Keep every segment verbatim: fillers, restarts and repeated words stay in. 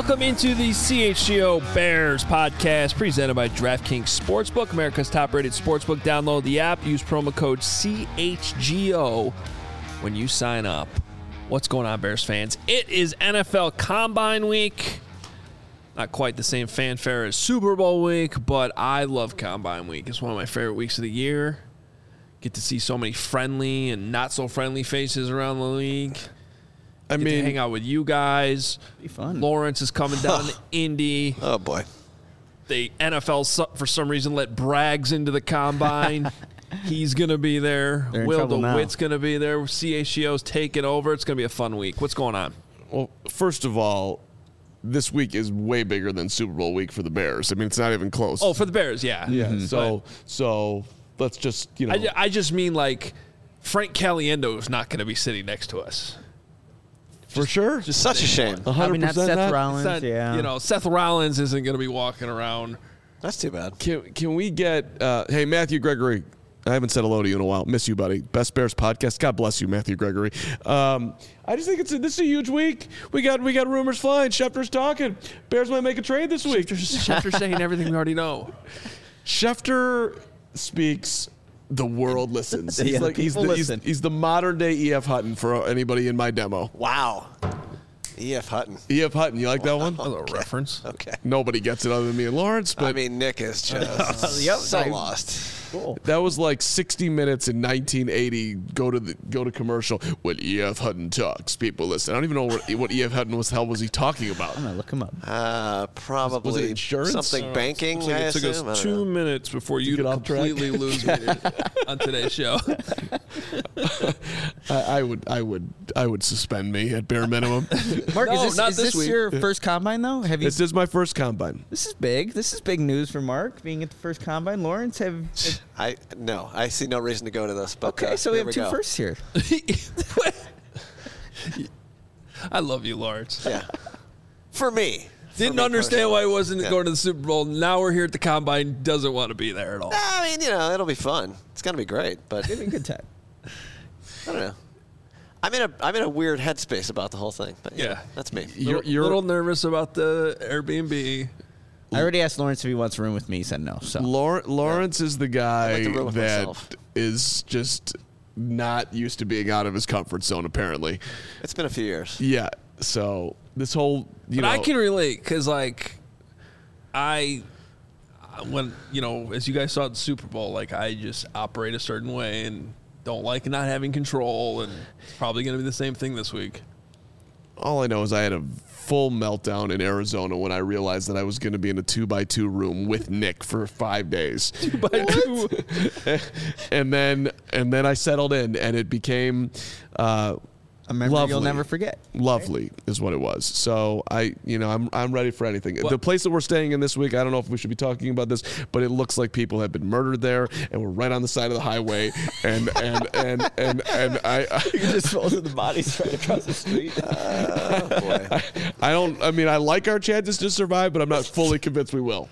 Welcome into the C H G O Bears podcast presented by DraftKings Sportsbook, America's top-rated sportsbook. Download the app. Use promo code C H G O when you sign up. What's going on, Bears fans? It is N F L Combine Week. Not quite the same fanfare as Super Bowl week, but I love Combine Week. It's one of my favorite weeks of the year. Get to see so many friendly and not-so-friendly faces around the league. I Get mean, to hang out with you guys. Be fun. Lawrence is coming down to Indy. Oh boy! The N F L for some reason let Braggs into the combine. He's gonna be there. Will DeWitt's gonna be there. C H G O's taking over. It's gonna be a fun week. What's going on? Well, first of all, this week is way bigger than Super Bowl week for the Bears. I mean, it's not even close. Oh, for the Bears, yeah. Yeah. Mm-hmm. So, but so let's just you know. I, I just mean like Frank Caliendo is not gonna be sitting next to us. For sure. Just such a shame. one hundred percent I mean, that's Seth not, Rollins, not, yeah. You know, Seth Rollins isn't going to be walking around. That's too bad. Can, can we get, uh, hey, Matthew Gregory, I haven't said hello to you in a while. Miss you, buddy. Best Bears podcast. God bless you, Matthew Gregory. Um, I just think it's a, this is a huge week. We got we got rumors flying. Schefter's talking. Bears might make a trade this week. Schefter's, Schefter's saying everything we already know. Schefter speaks... The world listens. He's yeah, like he's the, listen. he's, he's the modern day E F Hutton for anybody in my demo. Wow. E F Hutton. E F Hutton, you like that one? A little reference. Okay. Nobody gets it other than me and Lawrence. But I mean, Nick is just yep, so I, lost. Cool. That was like sixty minutes in nineteen eighty. Go to the go to commercial. When E F Hutton talks, people listen. I don't even know what, what E F Hutton was. The hell was he talking about? I'm gonna look him up. Uh, probably was it insurance? something Uh, banking. Like I it took assume? us I two know. minutes before you get off track? completely lose me on today's show. I, I would I would I would suspend me at bare minimum. Mark, No, is this, not is this this week. your first combine though? Have you? This is my first combine. This is big. This is big news for Mark being at the first combine. Lawrence, have. have I no. I see no reason to go to this. But okay, uh, so we here have two go. firsts here. I love you, Lawrence. Yeah. For me. Didn't For me understand why he personally. wasn't Yeah. going to the Super Bowl. Now we're here at the Combine. Doesn't want to be there at all. I mean, you know, it'll be fun. It's gonna be great, but It'll be a good time. I don't know. I'm in a I'm in a weird headspace about the whole thing. But yeah, Yeah. that's me. You're, Little, you're little nervous about the Airbnb. I already asked Lawrence if he wants a room with me. He said no. So Laur- Lawrence is the I guy like to room with that myself. is just not used to being out of his comfort zone. Apparently, It's been a few years. yeah. So this whole you But know I can relate because, like, I, when, you know, as you guys saw at the Super Bowl, like, I just operate a certain way and don't like not having control. And it's probably going to be the same thing this week. all I know is I had a full meltdown in Arizona when I realized that I was going to be in a two by two room with Nick for five days. Two by two. and then and then I settled in, and it became uh, a memory lovely. you'll never forget. Lovely is what it was. So I, you know, I'm I'm ready for anything. What? The place that we're staying in this week, I don't know if we should be talking about this, but it looks like people have been murdered there, and we're right on the side of the highway, and and and and and I. I You just rolled the bodies right across the street. Oh boy. I, I don't. I mean, I like our chances to survive, but I'm not fully convinced we will.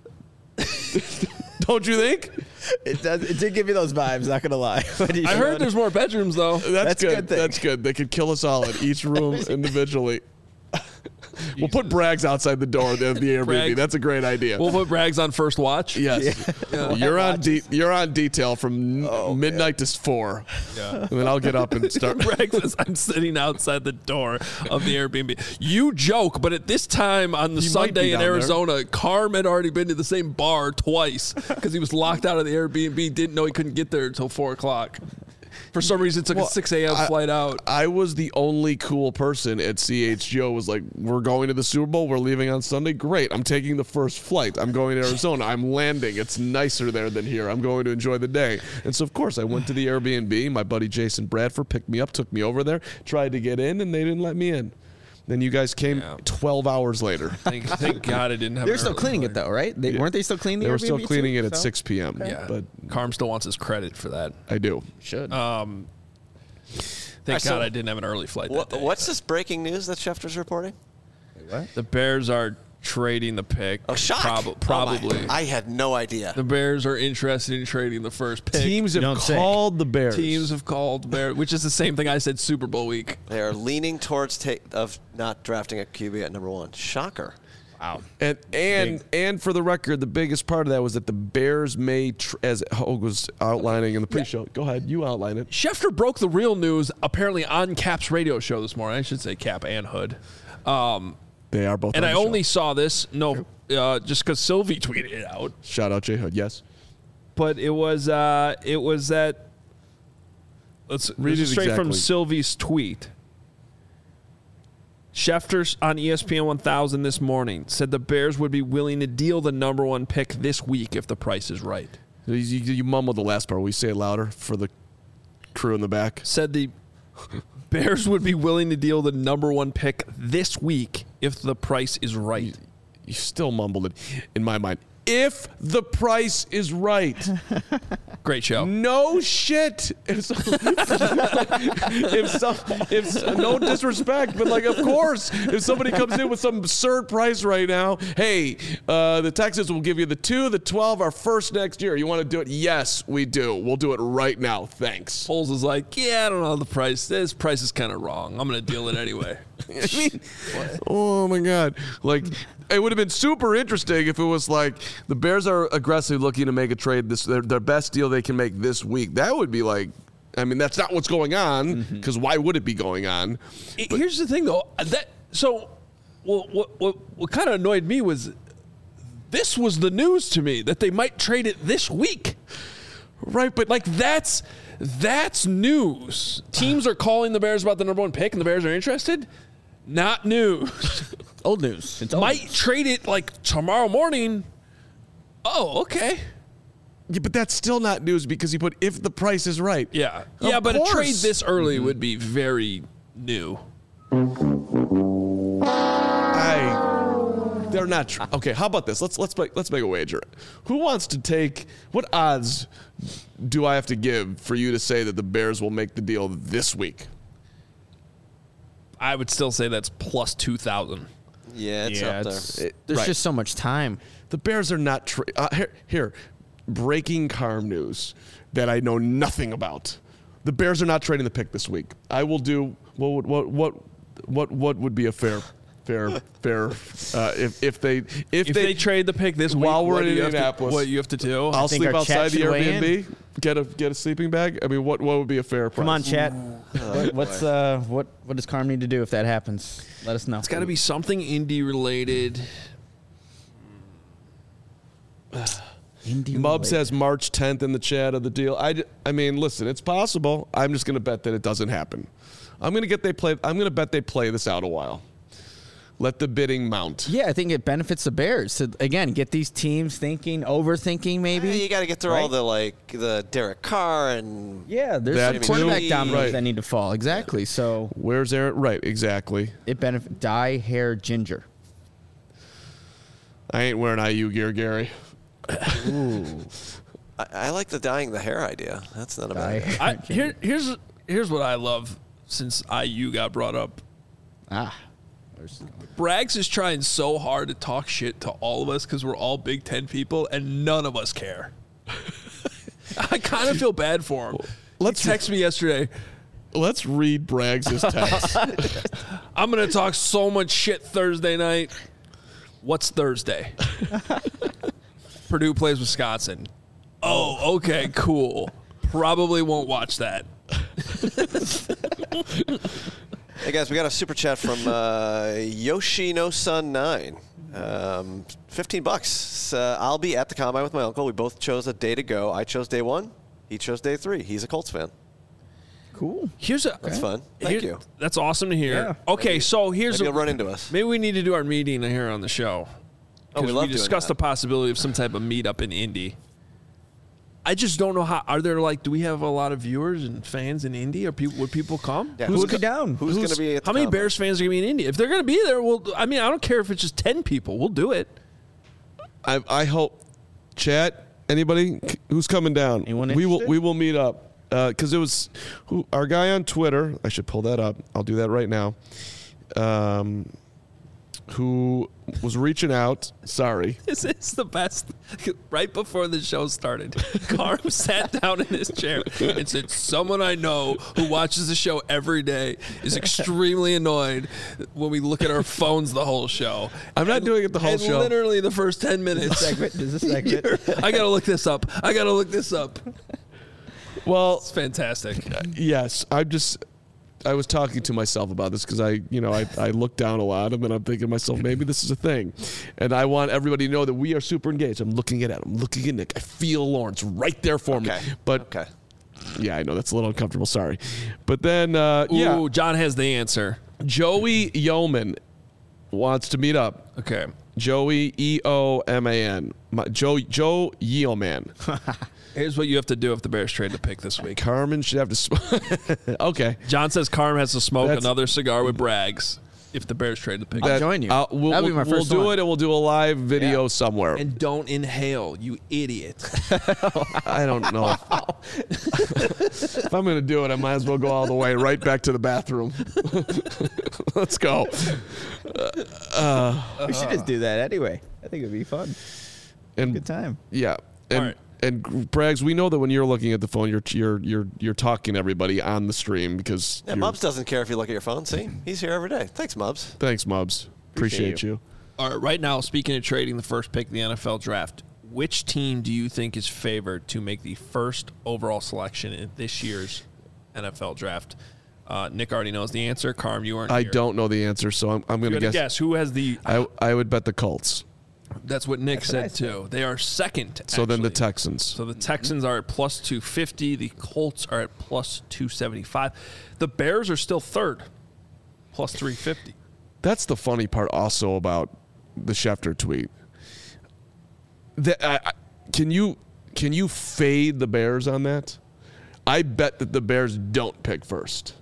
Don't you think? It does. It did give you those vibes. Not gonna lie. When you I showed heard it. there's more bedrooms, though. That's, That's a good. good thing. That's good. They could kill us all in each room individually. We'll put Braggs outside the door of the Airbnb. Braggs. That's a great idea. We'll put Braggs on first watch. yes, Yeah. you're on. De- you're on detail from Oh, midnight to four, Yeah. and then I'll get up and start. Bragg says, I'm sitting outside the door of the Airbnb. You joke, but at this time on the He might be Sunday in down there. Arizona, Carm had already been to the same bar twice because he was locked out of the Airbnb, didn't know he couldn't get there until four o'clock. For some reason, it took Well, a six a.m. I- flight out. I was the only cool person at C H G O. Was like, we're going to the Super Bowl. We're leaving on Sunday. Great. I'm taking the first flight. I'm going to Arizona. I'm landing. It's nicer there than here. I'm going to enjoy the day. And so, of course, I went to the Airbnb. My buddy Jason Bradford picked me up, took me over there, tried to get in, and they didn't let me in. Then you guys came Yeah. twelve hours later. Thank, thank God I didn't have They're an still early cleaning flight. it though, right? They, Yeah. Weren't they still cleaning the They were Airbnb still cleaning too? it at So- six p.m. Yeah. But Carm still wants his credit for that. I do. Should. Um, thank Alright, God so I didn't have an early flight that What, day. what's this breaking news that Schefter's reporting? what? The Bears are trading the pick. Oh, shock. Prob- probably. Oh I had no idea. The Bears are interested in trading the first pick. Teams have don't say. called the Bears. Teams have called Bears, which is the same thing I said Super Bowl week. They are leaning towards ta- of not drafting a Q B at number one. Shocker. Wow. And and and for the record, the biggest part of that was that the Bears may, tr- as Hogue was outlining in the pre-show. Go ahead, you outline it. Schefter broke the real news apparently on Cap's radio show this morning. I should say Cap and Hood. Um, They are both. and on I the show. only saw this, no, uh, just because Sylvie tweeted it out. Shout out J Hood. Yes. But it was uh, it was that. Let's Read this is it straight from exactly. Sylvie's tweet. Schefter on E S P N one thousand this morning said the Bears would be willing to deal the number one pick this week if the price is right. You, you, you mumbled the last part. Will you say it louder for the crew in the back? Said the Bears would be willing to deal the number one pick this week if the price is right. You still mumbled it in my mind. If the price is right. Great show. No shit. If, some, if, some, if some, no disrespect, but like, of course, if somebody comes in with some absurd price right now, hey, uh, the Texans will give you the two, the twelve, our first next year. You want to do it? Yes, we do. We'll do it right now. Thanks. Foles is like, yeah, I don't know the price. This price is kind of wrong. I'm going to deal it anyway. I mean, oh my God. Like, it would have been super interesting if it was like the Bears are aggressively looking to make a trade, this their, their best deal they can make this week. That would be like, I mean, that's not what's going on, because why would it be going on? It- Here's the thing, though. That so, well, what what what kind of annoyed me was this was the news to me that they might trade it this week. Right, but Like that's that's news. Teams are calling the Bears about the number one pick, and the Bears are interested. Not news. Old news. It's old Might news. trade it like tomorrow morning. Oh, okay. yeah, but that's still not news because you put if the price is right. Yeah. Of yeah, but a trade course. this early would be very new. I they're not tr- okay. How about this? Let's let's make let's make a wager. Who wants to take? What odds do I have to give for you to say that the Bears will make the deal this week? I would still say that's plus two thousand. Yeah, it's Yeah, up it's- there. It- There's right. just so much time. The Bears are not tra- uh, here, here. Breaking Carm news that I know nothing about. The Bears are not trading the pick this week. I will do what would what what what what would be a fair fair fair uh, if if they if, If they, trade the pick this week, while we're what in do you have to- Indianapolis, what you have to do? I'll think sleep our chat outside the should weigh Airbnb. Get a get a sleeping bag. I mean, what what would be a fair price? Come on, chat. What, what's uh what what does Carm need to do if that happens? Let us know. It's got to be something indie related. Indy Mub related. says March tenth in the chat of the deal. I, d- I mean, listen, it's possible. I'm just going to bet that it doesn't happen. I'm going to get they play. I'm going to bet they play this out a while. Let the bidding mount. Yeah, I think it benefits the Bears to again get these teams thinking, overthinking maybe. Yeah, you got to get through all Right? the like the Derek Carr and Yeah, there's That some too. quarterback dominoes Right. that need to fall. Exactly. So Where's Aaron? Right, exactly. it benefits dye hair ginger. I ain't wearing I U gear, Gary. Ooh. I, I like the dyeing the hair idea. That's not a Dye bad. hair I, ginger. here, here's here's what I love since I U got brought up. Ah. There's- Braggs is trying so hard to talk shit to all of us because we're all Big Ten people and none of us care. I kind of feel bad for him. Let's- he texted me yesterday. Let's read Braggs' text. I'm gonna talk so much shit Thursday night. What's Thursday? Purdue plays Wisconsin. Oh, okay, cool. Probably won't watch that. Hey guys, we got a super chat from uh, Yoshino Sun Nine. Um, Fifteen bucks. Uh, I'll be at the combine with my uncle. We both chose a day to go. I chose day one. He chose day three. He's a Colts fan. Cool. Here's a That's fun. Thank here- you. That's awesome to hear. Yeah. Okay, so here's Maybe a, you'll run into us. maybe we need to do our meeting here on the show. Oh, we 'Cause love we doing discussed that. the possibility of some type of meetup in Indy. I just don't know how. Are there like? Do we have a lot of viewers and fans in Indy? Or people? Would people come? Yeah, Who's who's go down? Who's, going to be at the How many combine? Bears fans are going to be in Indy? If they're going to be there, well, I mean, I don't care if it's just ten people. We'll do it. I, I hope, chat. Anybody who's coming down? Anyone we will interested? we will meet up because it was who, our guy on Twitter. I should pull that up. I'll do that right now. Um, who was reaching out. Sorry. This is the best. Right before the show started, Carm sat down in his chair and said, someone I know who watches the show every day is extremely annoyed when we look at our phones the whole show. I'm not and, doing it the whole and show. Literally the first ten minutes. Segment. There's a segment. I got to look this up. I got to look this up. Well, It's fantastic. yes, I'm just. I was talking to myself about this because I, you know, I, I look down a lot and then I'm thinking to myself, maybe this is a thing. And I want everybody to know that we are super engaged. I'm looking at Adam, I'm looking at Nick. I feel Lawrence right there for Okay. me. But Okay. yeah, I know that's a little uncomfortable. Sorry. But then, uh, Ooh, yeah, John has the answer. Joey Yeoman wants to meet up. Okay. Joey E O M A N. My- Joe Joe Yeoman. Here's what you have to do if the Bears trade the pick this week. Carmen should have to. Sm- okay. John says Carm has to smoke That's- another cigar with Braggs if the Bears trade the pick. I'll join you. I'll- we'll That'll be we'll- my we'll first do one. it and we'll do a live video Yeah. somewhere. And don't inhale, you idiot. I don't know. If I'm going to do it, I might as well go all the way right back to the bathroom. Let's go. We should just do that anyway. I think it'd be fun. And Good time. yeah. And All right. and Braggs, we know that when you're looking at the phone, you're you're you're you're talking to everybody on the stream because Yeah, you're- Mubs doesn't care if you look at your phone. See, he's here every day. Thanks, Mubs. Thanks, Mubs. Appreciate, Appreciate you. All right, right now, speaking of trading the first pick in the N F L draft, which team do you think is favored to make the first overall selection in this year's N F L draft? Uh, Nick already knows the answer. Carm, you aren't I here. don't know the answer, so I'm I'm You going to gotta guess. guess who has the. I I would bet the Colts. That's what Nick That's what I said too. They are second. So then the actually. Texans. So the Texans are at plus two fifty. The Colts are at plus two seventy-five. The Bears are still third, plus three fifty. That's the funny part also about the Schefter tweet. That I, I, can you can you fade the Bears on that? I bet that the Bears don't pick first.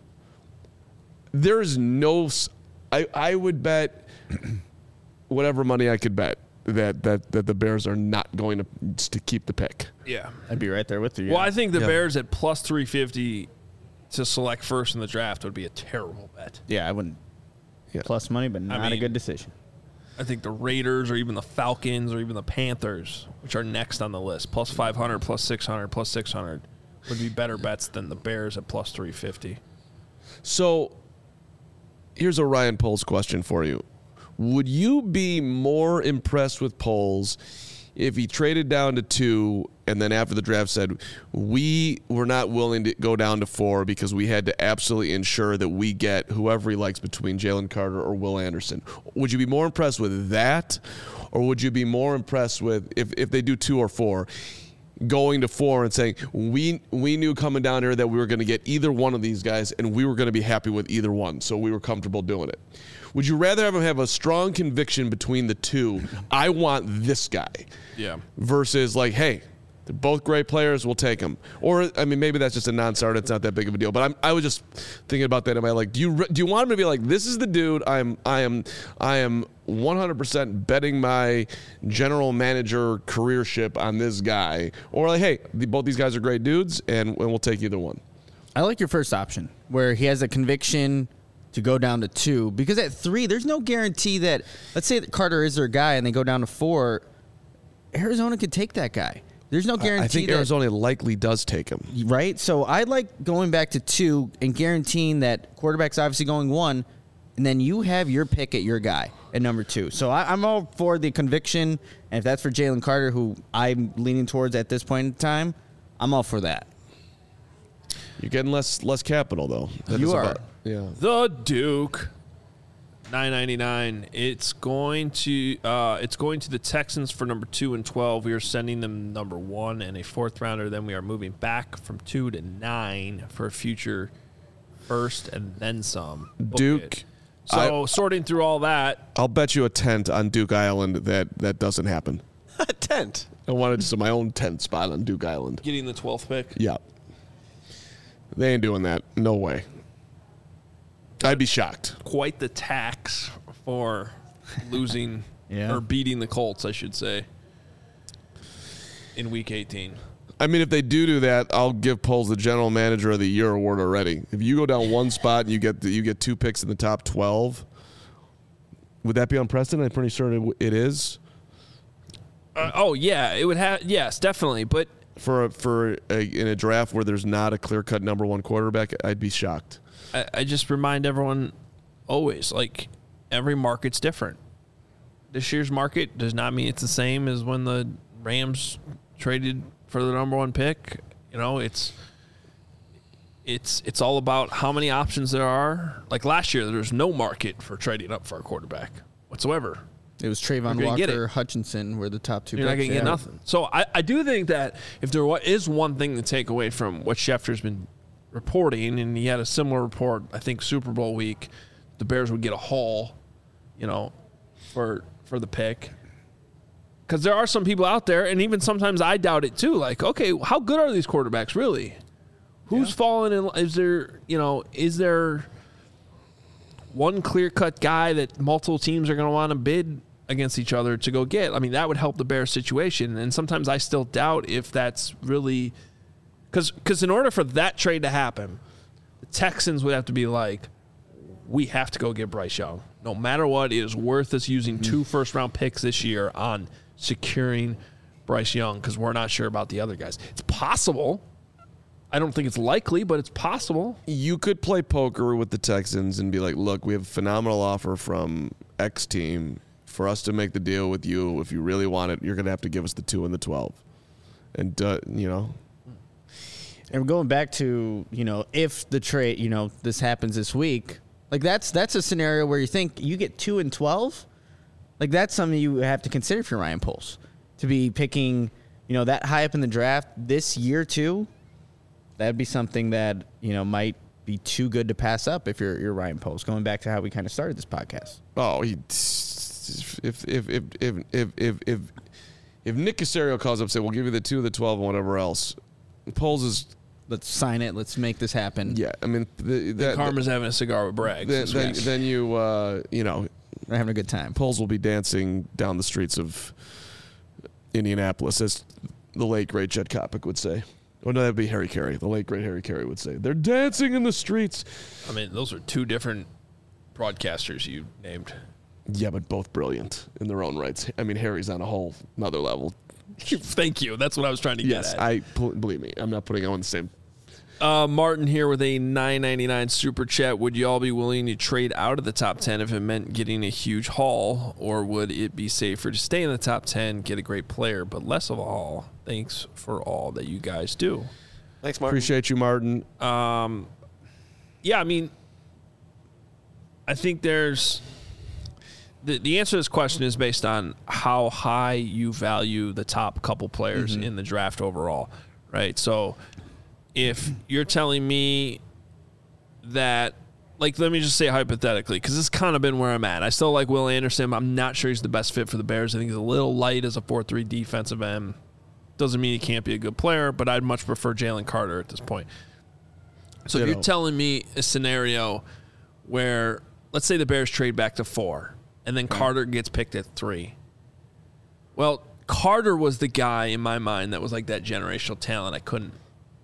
There is no. s- I I would bet whatever money I could bet that that that the Bears are not going to to keep the pick. Yeah. I'd be right there with you. Well, yeah. I think the Yeah. Bears at plus three fifty to select first in the draft would be a terrible bet. yeah, I wouldn't. Yeah. Plus money, but not a mean- good decision. I think the Raiders or even the Falcons or even the Panthers, which are next on the list, plus five hundred, plus six hundred, plus six hundred, would be better bets than the Bears at plus three fifty. So here's a Ryan Poles question for you. Would you be more impressed with Poles if he traded down to two and then after the draft said, we were not willing to go down to four because we had to absolutely ensure that we get whoever he likes between Jalen Carter or Will Anderson? Would you be more impressed with that? Or would you be more impressed with, if, if they do two or four, going to four and saying, we we knew coming down here that we were going to get either one of these guys and we were going to be happy with either one, so we were comfortable doing it? Would you rather have him have a strong conviction between the two, I want this guy, Yeah. versus like, hey, they're both great players, we'll take them? Or, I mean, maybe that's just a non-starter, it's not that big of a deal, but I'm, I was just thinking about that. Am I like, do you re- do you want him to be like, this is the dude, I'm I am I am one hundred percent betting my general manager careership on this guy? Or like, hey, the, both these guys are great dudes, and, and we'll take either one. I like your first option, where he has a conviction to go down to two, because at three, there's no guarantee that, let's say that Carter is their guy and they go down to four, Arizona could take that guy. There's no guarantee I think that, Arizona likely does take him. right? So I like going back to two and guaranteeing that quarterback's obviously going one, and then you have your pick at your guy at number two. So I, I'm all for the conviction, and if that's for Jalen Carter, who I'm leaning towards at this point in time, I'm all for that. You're getting less less capital though. That You is are. about- yeah. The Duke, nine ninety-nine. It's going to uh, it's going to the Texans for number two and twelve. We are sending them number one and a fourth rounder. Then we are moving back from two to nine for a future first and then some. Book Duke. it. So sorting through all that, I'll bet you a tent on Duke Island that that doesn't happen. A tent. I wanted just my own tent spot on Duke Island. getting the twelfth pick. Yeah. They ain't doing that. No way. I'd be shocked. Quite the tax for losing Yeah. or beating the Colts, I should say, in week eighteen. I mean, if they do do that, I'll give Poles the General Manager of the Year award already. If you go down one spot and you get the, you get two picks in the top twelve, Would that be unprecedented? I'm pretty sure it, it is. Uh, oh yeah, it would have. Yes, definitely. But For a, for a, in a draft where there's not a clear-cut number one quarterback, I'd be shocked. I, I just remind everyone always, like, every market's different. This year's market does not mean it's the same as when the Rams traded for the number one pick. You know, it's it's it's all about how many options there are. Like last year, there was no market for trading up for a quarterback whatsoever. It was Trayvon Walker, Hutchinson were the top two. You're picks. not going to yeah. get nothing. So I, I do think that if there is one thing to take away from what Schefter's been reporting, and he had a similar report, I think Super Bowl week, the Bears would get a haul, you know, for for the pick. Because there are some people out there, and even sometimes I doubt it too. Like, okay, how good are these quarterbacks really? Who's yeah. falling in? Is there, you know, is there one clear-cut guy that multiple teams are going to want to bid against each other to go get? I mean, that would help the Bears situation. And sometimes I still doubt if that's really – because in order for that trade to happen, the Texans would have to be like, we have to go get Bryce Young. No matter what, it is worth us using mm-hmm. two first-round picks this year on securing Bryce Young because we're not sure about the other guys. It's possible. I don't think it's likely, but it's possible. You could play poker with the Texans and be like, look, we have a phenomenal offer from X team. For us to make the deal with you, if you really want it, you're going to have to give us the two and the twelve. And, uh, you know. And going back to, you know, if the trade, you know, this happens this week, like that's that's a scenario where you think you get two and twelve. Like that's something you have to consider for Ryan Poles. To be picking, you know, that high up in the draft this year too, that'd be something that, you know, might be too good to pass up if you're, you're Ryan Poles. Going back to how we kind of started this podcast. Oh, he... If if if if if if if, if Nick Caserio calls up and says, we'll give you the two, the twelve, and whatever else, Poles is let's sign it, let's make this happen. Yeah, I mean the, that, Karma's having a cigar with Bragg. Then, then, then you uh, you know they're having a good time. Poles will be dancing down the streets of Indianapolis, as the late great Jed Kopic would say. Oh no, that'd be Harry Carey. The late great Harry Carey would say they're dancing in the streets. I mean, those are two different broadcasters you named. Yeah, but both brilliant in their own rights. I mean, Harry's on a whole another level. Thank you. That's what I was trying to yes, get at. Yes, I believe me. I'm not putting on the same. Uh, Martin here with a nine ninety-nine super chat. Would you all be willing to trade out of the top ten if it meant getting a huge haul, or would it be safer to stay in the top ten, get a great player, but less of a haul? Thanks for all that you guys do. Thanks, Martin. Appreciate you, Martin. Um, yeah, I mean, I think there's. The, the answer to this question is based on how high you value the top couple players mm-hmm. in the draft overall, right? So if you're telling me that, like, let me just say hypothetically, because this has kind of been where I'm at. I still like Will Anderson. I'm not sure he's the best fit for the Bears. I think he's a little light as a four three defensive end. Doesn't mean he can't be a good player, but I'd much prefer Jalen Carter at this point. So you if know. you're telling me a scenario where, let's say the Bears trade back to four, and then Carter gets picked at three. Well, Carter was the guy in my mind that was like that generational talent I couldn't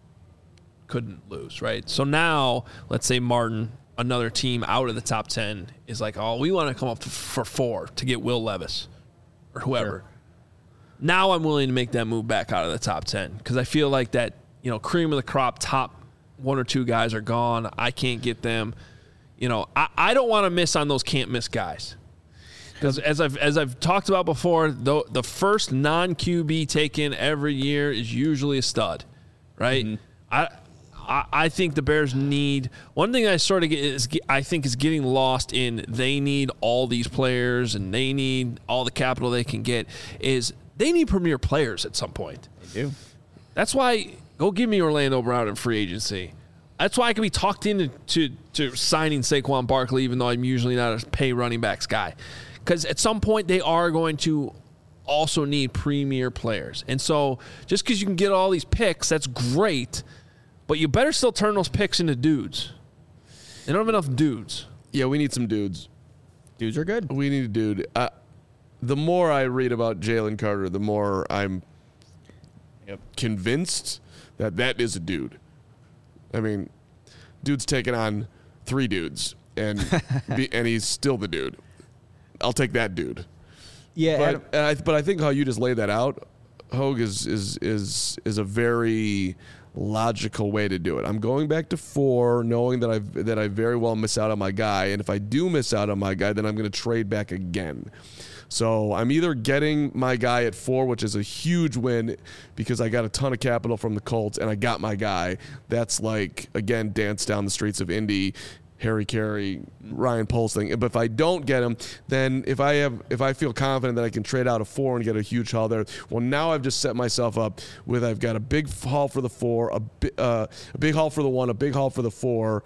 couldn't lose, right? So now, let's say Martin, another team out of the top ten, is like, oh, we want to come up for four to get Will Levis or whoever. Sure. Now I'm willing to make that move back out of the top ten because I feel like that, you know, cream of the crop top one or two guys are gone. I can't get them. You know, I, I don't want to miss on those can't miss guys. Because as I've as I've talked about before, the the first non Q B taken every year is usually a stud, right? Mm-hmm. I, I I think the Bears need one thing. I sort of get is I think is getting lost in. They need all these players and they need all the capital they can get. Is they need premier players at some point. They do. That's why go give me Orlando Brown in free agency. That's why I can be talked into to, to signing Saquon Barkley, even though I'm usually not a pay running backs guy. Because at some point they are going to also need premier players. And so just because you can get all these picks, that's great, but you better still turn those picks into dudes. They don't have enough dudes. Yeah, we need some dudes. Dudes are good. We need a dude. Uh, the more I read about Jalen Carter, the more I'm yep. convinced that that is a dude. I mean, dude's taking on three dudes, and be, and he's still the dude. I'll take that dude. Yeah, But Adam- and I, but I think how you just laid that out, Hogue, is is is is a very logical way to do it. I'm going back to four, knowing that I that I very well miss out on my guy, and if I do miss out on my guy, then I'm going to trade back again. So I'm either getting my guy at four, which is a huge win because I got a ton of capital from the Colts and I got my guy. That's like, again, dance down the streets of Indy, Harry Carey, Ryan Poles thing. But if I don't get him, then if I have, if I feel confident that I can trade out a four and get a huge haul there, well, now I've just set myself up with I've got a big haul for the four, a, bi- uh, a big haul for the one, a big haul for the four,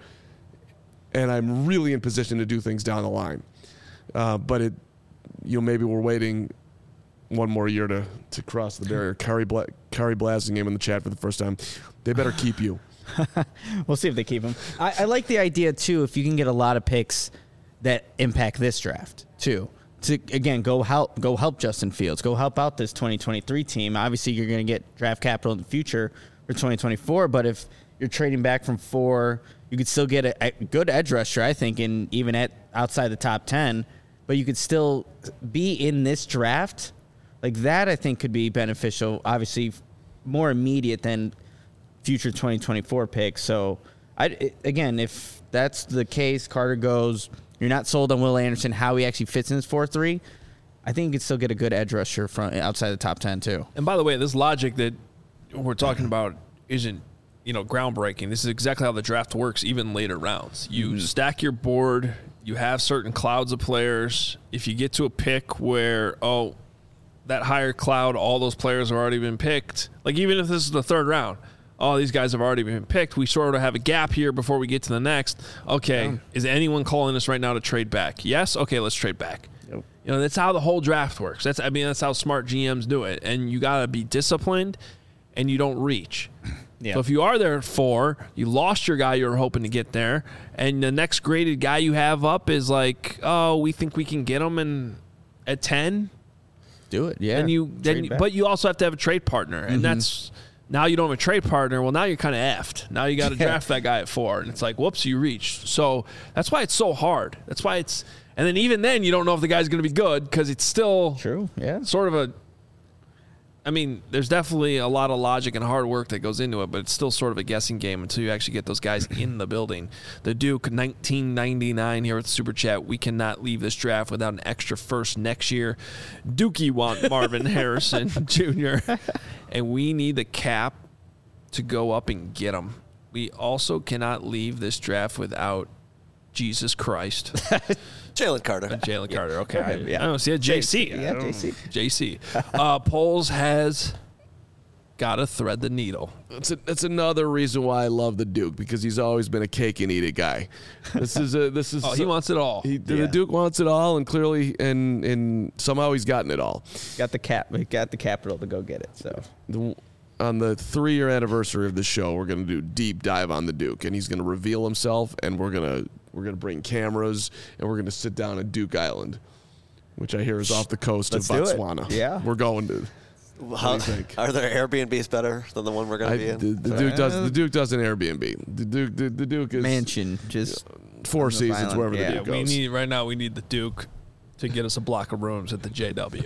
and I'm really in position to do things down the line. Uh, but it, you know, maybe we're waiting one more year to, to cross the barrier. Kari Bla- Kari Blasingame in the chat for the first time. They better keep you. We'll see if they keep him. I, I like the idea too. If you can get a lot of picks that impact this draft too, to again go help go help Justin Fields, go help out this twenty twenty-three team. Obviously, you're going to get draft capital in the future for twenty twenty-four. But if you're trading back from four, you could still get a, a good edge rusher, I think, and even at outside the top ten. But you could still be in this draft. Like that, I think could be beneficial. Obviously, more immediate than future twenty twenty-four picks. So, I it, again, if that's the case, Carter goes. You're not sold on Will Anderson, how he actually fits in his four three. I think you could still get a good edge rusher from outside the top ten too. And by the way, this logic that we're talking about isn't, you know, groundbreaking. This is exactly how the draft works, even later rounds. You mm-hmm. stack your board. You have certain clouds of players. If you get to a pick where, oh, that higher cloud, all those players have already been picked. Like even if this is the third round, oh, these guys have already been picked. We sort of have a gap here before we get to the next. Okay, yeah. Is anyone calling us right now to trade back? Yes? Okay, let's trade back. Yep. You know, that's how the whole draft works. That's I mean, that's how smart G Ms do it. And you got to be disciplined and you don't reach. Yeah. So if you are there at four, you lost your guy you were hoping to get there, and the next graded guy you have up is like, oh, we think we can get him in at ten. Do it, yeah. And you then, but you also have to have a trade partner, and mm-hmm. that's now you don't have a trade partner. Well, now you're kind of effed. Now you got to yeah. draft that guy at four, and it's like, whoops, you reached. So that's why it's so hard. That's why it's, and then even then you don't know if the guy's going to be good because it's still true. Yeah, sort of a. I mean, there's definitely a lot of logic and hard work that goes into it, but it's still sort of a guessing game until you actually get those guys in the building. The Duke, nineteen ninety-nine here with Super Chat. We cannot leave this draft without an extra first next year. Dookie want Marvin Harrison Junior And we need the cap to go up and get him. We also cannot leave this draft without Jesus Christ. Jalen Carter. Jalen yeah. Carter, okay. I, yeah. I don't see a J C. Yeah, J C. J C. Uh, Poles has got to thread the needle. That's, a, that's another reason why I love the Duke, because he's always been a cake and eat it guy. This is a, this is. Oh, he wants it all. He, the yeah. Duke wants it all, and clearly, and and somehow he's gotten it all. Got the cap. He got the capital to go get it. So. The, on the three-year anniversary of the show, we're going to do a deep dive on the Duke, and he's going to reveal himself, and we're going to we're going to bring cameras, and we're going to sit down at Duke Island, which I hear is off the coast Let's of Botswana. Yeah, we're going to. How, are there Airbnbs better than the one we're going to be in? The, the Duke does. The Duke does an Airbnb. The Duke. The, the Duke is mansion. Just Four Seasons, wherever yeah, the Duke goes. We need right now. We need the Duke to get us a block of rooms at the J W.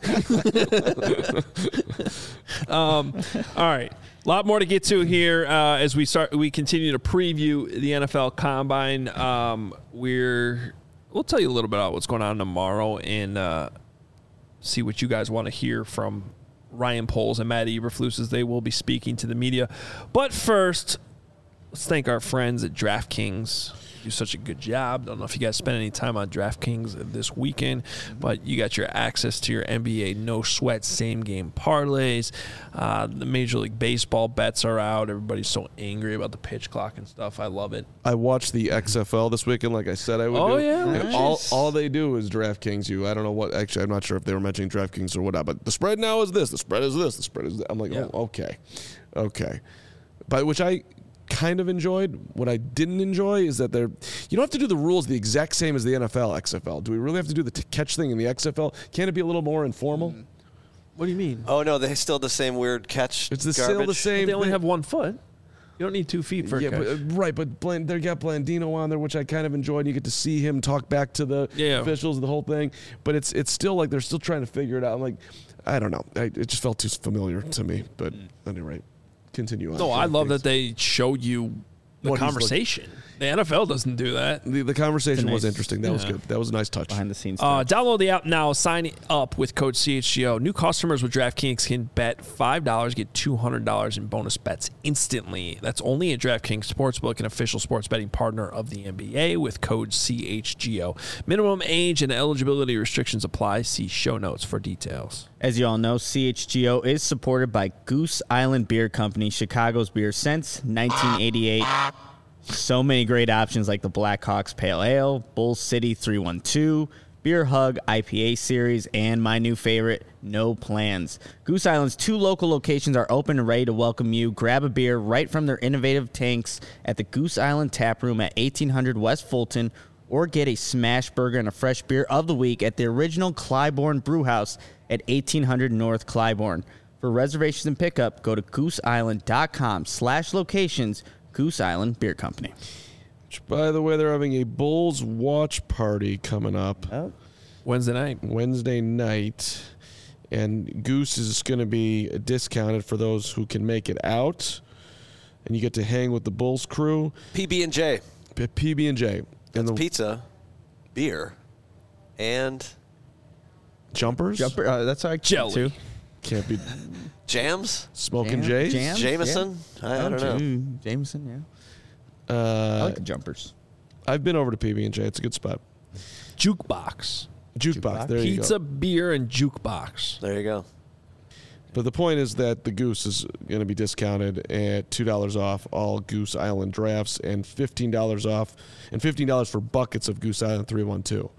um, all right, a lot more to get to here uh, as we start. We continue to preview the N F L Combine. Um, we're we'll tell you a little bit about what's going on tomorrow and uh, see what you guys want to hear from Ryan Poles and Matt Eberflus as they will be speaking to the media. But first, let's thank our friends at DraftKings. Do such a good job. Don't know if you guys spent any time on DraftKings this weekend, but you got your access to your N B A no sweat same game parlays. Uh, the Major League Baseball bets are out. Everybody's so angry about the pitch clock and stuff. I love it. I watched the X F L this weekend, like I said I would. Oh do. yeah, and nice. all all they do is DraftKings you. I don't know what. Actually, I'm not sure if they were mentioning DraftKings or whatnot. But the spread now is this. The spread is this. The spread is that. I'm like, yeah. oh, okay, okay. By which I kind of enjoyed. What I didn't enjoy is that they're you don't have to do the rules the exact same as the N F L, X F L. Do we really have to do the t- catch thing in the X F L? Can't it be a little more informal? Mm. What do you mean? Oh no, they still the same weird catch. It's the garbage. still the same. But they only thing. have one foot. You don't need two feet for yeah, a coach. but, uh, right, but Bland, they got Blandino on there, which I kind of enjoyed. You get to see him talk back to the Yeah. officials, the whole thing. But it's it's still like they're still trying to figure it out. I'm like, I don't know. I, it just felt too familiar to me. But at any rate, continue on. No, I love Thanks. that they show you the What he's conversation. The N F L doesn't do that. The, the conversation Nice- was interesting. That was yeah. good. That was a nice touch. Behind the scenes. Uh, stuff. download the app now. Sign up with code C H G O. New customers with DraftKings can bet five dollars, get two hundred dollars in bonus bets instantly. That's only at DraftKings Sportsbook, an official sports betting partner of the N B A, with code C H G O. Minimum age and eligibility restrictions apply. See show notes for details. As you all know, C H G O is supported by Goose Island Beer Company, Chicago's beer since nineteen eighty-eight. So many great options like the Blackhawks Pale Ale, Bull City three one two, Beer Hug I P A series, and my new favorite, No Plans. Goose Island's two local locations are open and ready to welcome you. Grab a beer right from their innovative tanks at the Goose Island Tap Room at eighteen hundred West Fulton, or get a smash burger and a fresh beer of the week at the original Clybourne Brewhouse at eighteen hundred North Clybourne. For reservations and pickup, go to gooseisland.com slash locations, Goose Island Beer Company. Which, by the way, they're having a Bulls watch party coming up Oh, Wednesday night. Wednesday night. And Goose is going to be discounted for those who can make it out. And you get to hang with the Bulls crew. P B and J. P B and J. And the Pizza, beer, and jumpers? Jumper, uh, that's how I Jelly. too. Can't be jams. smoking Jam- Jays? jams? Jameson? I, I Oh, don't know. Jam- Jameson, yeah. I Uh, like the jumpers. I've been over to P B and J. It's a good spot. Jukebox. Jukebox. Jukebox? There you Pizza, go. beer, and jukebox. There you go. But the point is that the Goose is going to be discounted at two dollars off all Goose Island drafts and fifteen dollars off and fifteen dollars for buckets of Goose Island three one two.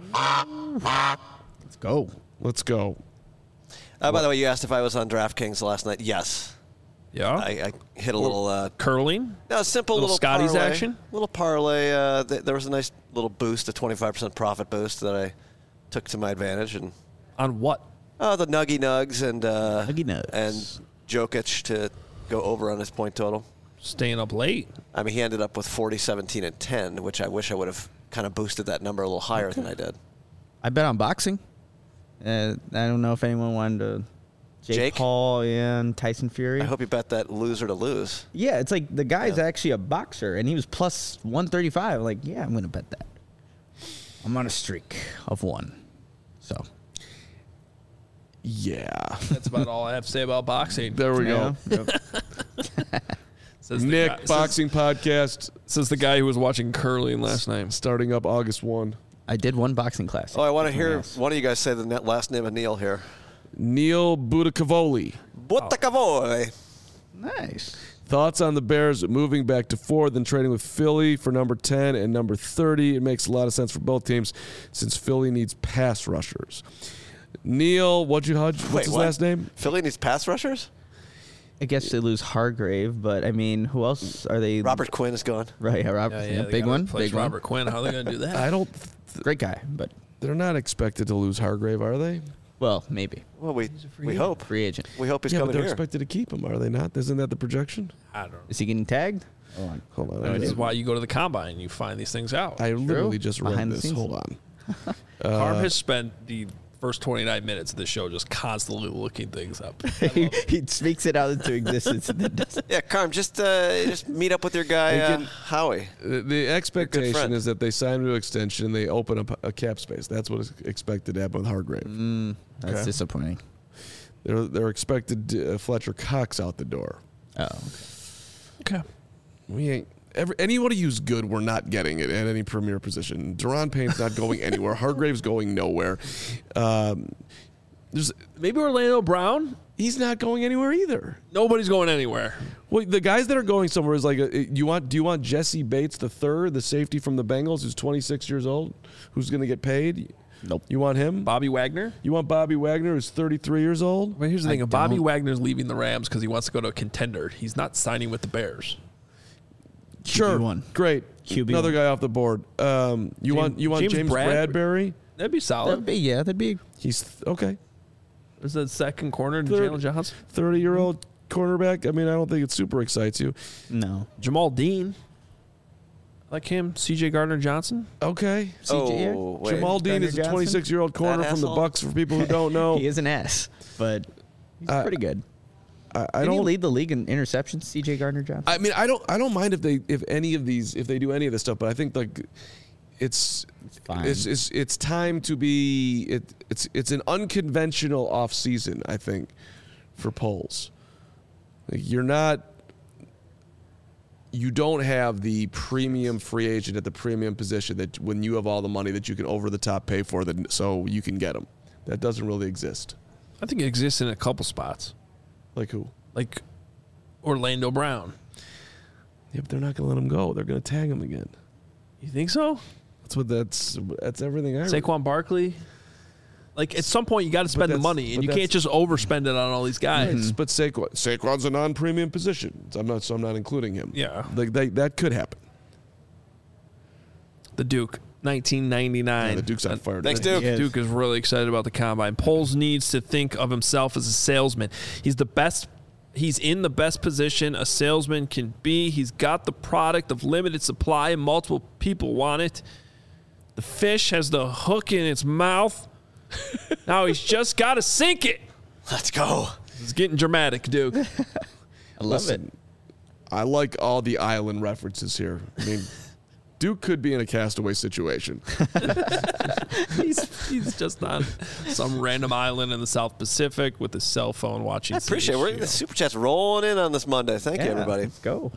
Let's go. Let's go. Uh, by the way, you asked if I was on DraftKings last night. Yes. Yeah. I, I hit a little... Uh, Curling. no, simple Little little, Scotty's parlay. action? Little parlay. Uh, th- there was a nice little boost, a twenty-five percent profit boost that I took to my advantage. And On what? uh, the Nuggy Nugs and, uh, Nuggy Nugs. and Jokic to go over on his point total. Staying up late. I mean, he ended up with forty, seventeen, and ten, which I wish I would have kind of boosted that number a little higher than I did. I bet on boxing. Uh, I don't know if anyone wanted to. Jake, Jake? Paul and Tyson Fury. I hope you bet that loser to lose. Yeah, it's like the guy's Yeah. actually a boxer, and he was plus one thirty-five. Like, yeah, I'm going to bet that. I'm on a streak of one. So. Yeah. That's about all I have to say about boxing. There we go. Yeah. Says the Nick, guy- Boxing Podcast, Says, says the guy who was watching curling last night. starting up August first. I did one boxing class. Oh, I want to hear Yes. one of you guys say the net last name of Neil here. Neil Budakavoli. Buttacavoy. Nice. Thoughts on the Bears moving back to four, then trading with Philly for number ten and number thirty. It makes a lot of sense for both teams since Philly needs pass rushers. Neil, what'd you, what's Wait, his what? last name? Philly needs pass rushers? I guess they lose Hargrave, but I mean, who else are they? Robert Quinn is gone. Right, yeah, Robert. Yeah, yeah, yeah, they big gotta one. replace Big one. Robert Quinn. How are they going to do that? I don't. Great guy, but They're not expected to lose Hargrave, are they? well, maybe Well, we free we agent. hope. free agent. We hope he's yeah, but coming they're here. expected to keep him, are they not? Isn't that the projection? I don't know. Is he getting tagged? Hold on. Hold on. I mean, I, this is why you go to the combine and you find these things out. I literally just read Behind the this. scenes. Hold on. Carm Uh, has spent the first twenty-nine minutes of the show just constantly looking things up. he, he speaks it out into existence and then does it. Yeah, Carm, just uh, just meet up with your guy uh, Again- Howie. The, the expectation friend. is that they sign a new extension and they open up a cap space. That's what is expected to happen with Hargrave. Mm, that's Okay. disappointing. They're they're expected to, uh, Fletcher Cox out the door. Oh, okay. Okay. We ain't every, anybody who's good. We're not getting it at any premier position. Deron Payne's not going anywhere. Hargrave's going nowhere. Um, there's Maybe Orlando Brown? he's not going anywhere either. Nobody's going anywhere. Well, the guys that are going somewhere is like a, you want. Do you want Jesse Bates the third, the safety from the Bengals, who's twenty-six years old, who's going to get paid? Nope. You want him? Bobby Wagner? You want Bobby Wagner, who's thirty-three years old? But here's the I thing. If Bobby don't. Wagner's leaving the Rams because he wants to go to a contender, he's not signing with the Bears. Sure, Q B one. great. Q B Another one. guy off the board. Um, you James- want you want James James, Brad- Bradbury? That'd be solid. That'd be yeah. That'd be He's th- okay. Is that second corner to Third. Jalen Johnson? thirty year old. cornerback. I mean, I don't think it super excites you. No. Jamal Dean. Like him, C J Gardner-Johnson. Okay. C J Oh, wait. Jamal Dean is a Gardner-Johnson? twenty-six-year-old corner That from the asshole? Bucks. For people who don't know, He is an ass, but he's Uh, pretty good. I, I Did he don't. lead the league in interceptions, C J Gardner-Johnson? I mean, I don't. I don't mind if they, if any of these, if they do any of this stuff. But I think like, it's, fine. it's, it's, it's time to be. It, it's, it's an unconventional off season. I think, for polls, like, you're not. You don't have the premium free agent at the premium position that when you have all the money that you can over the top pay for, that so you can get them. That doesn't really exist. I think it exists in a couple spots, Like who? like Orlando Brown. Yeah, but they're not going to let him go. They're going to tag him again. You think so? That's what. That's that's everything I. Read. Saquon Barkley. Like at some point, you got to spend the that's- money, and but you that's- can't just overspend it on all these guys. Right, But Saquon, Saquon's a non-premium position. So I'm not. So I'm not including him. Yeah. like they, that could happen. The Duke, nineteen ninety-nine. Yeah, the Duke's on fire. Thanks, today. Duke. Yes. Duke is really excited about the combine. Poles needs to think of himself as a salesman. He's the best. He's in the best position a salesman can be. He's got the product of limited supply, and multiple people want it. The fish has the hook in its mouth. Now he's just got to sink it. Let's go. It's getting dramatic, Duke. I love Listen, I like all the island references here. I mean, Duke could be in a castaway situation. he's, he's just on some random island in the South Pacific with his cell phone watching. I appreciate it. We're the super chat's rolling in on this Monday. Thank it. you, Yeah, everybody. Let's go.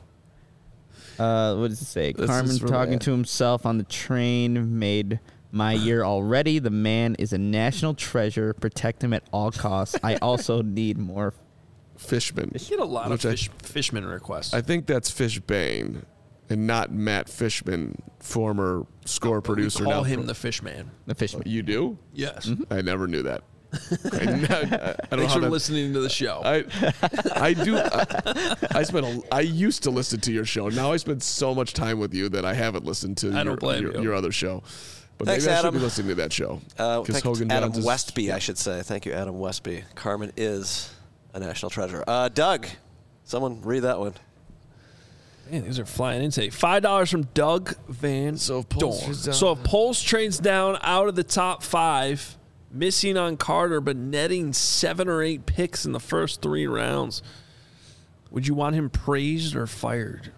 Uh, what does it say? This Carmen is from talking Ed. to himself on the train made my year already. The man is a national treasure. Protect him at all costs. I also need more. Fishman. You get a lot Which of I- fish, Fishman requests. I think that's Fishbane, and not Matt Fishman, former score producer. We call now him pro- the Fishman. The fishman. You do? Yes. I never knew that. I, ne- I don't know Thanks how for that- listening to the show. I I do. I, I spent. A, I used to listen to your show. Now I spend so much time with you that I haven't listened to I your, don't blame your, you. your other show. But Thanks, maybe I should Adam. be listening to that show. Uh, thank Hogan Adam Johns is- Westby, I should say. Thank you, Adam Westby. Carmen is a national treasure. Uh, Doug, someone read that one. Man, these are flying in today. Five dollars from Doug Van So if Poles Dorn. trades down- So if Poles trades down out of the top five, missing on Carter, but netting seven or eight picks in the first three rounds, would you want him praised or fired?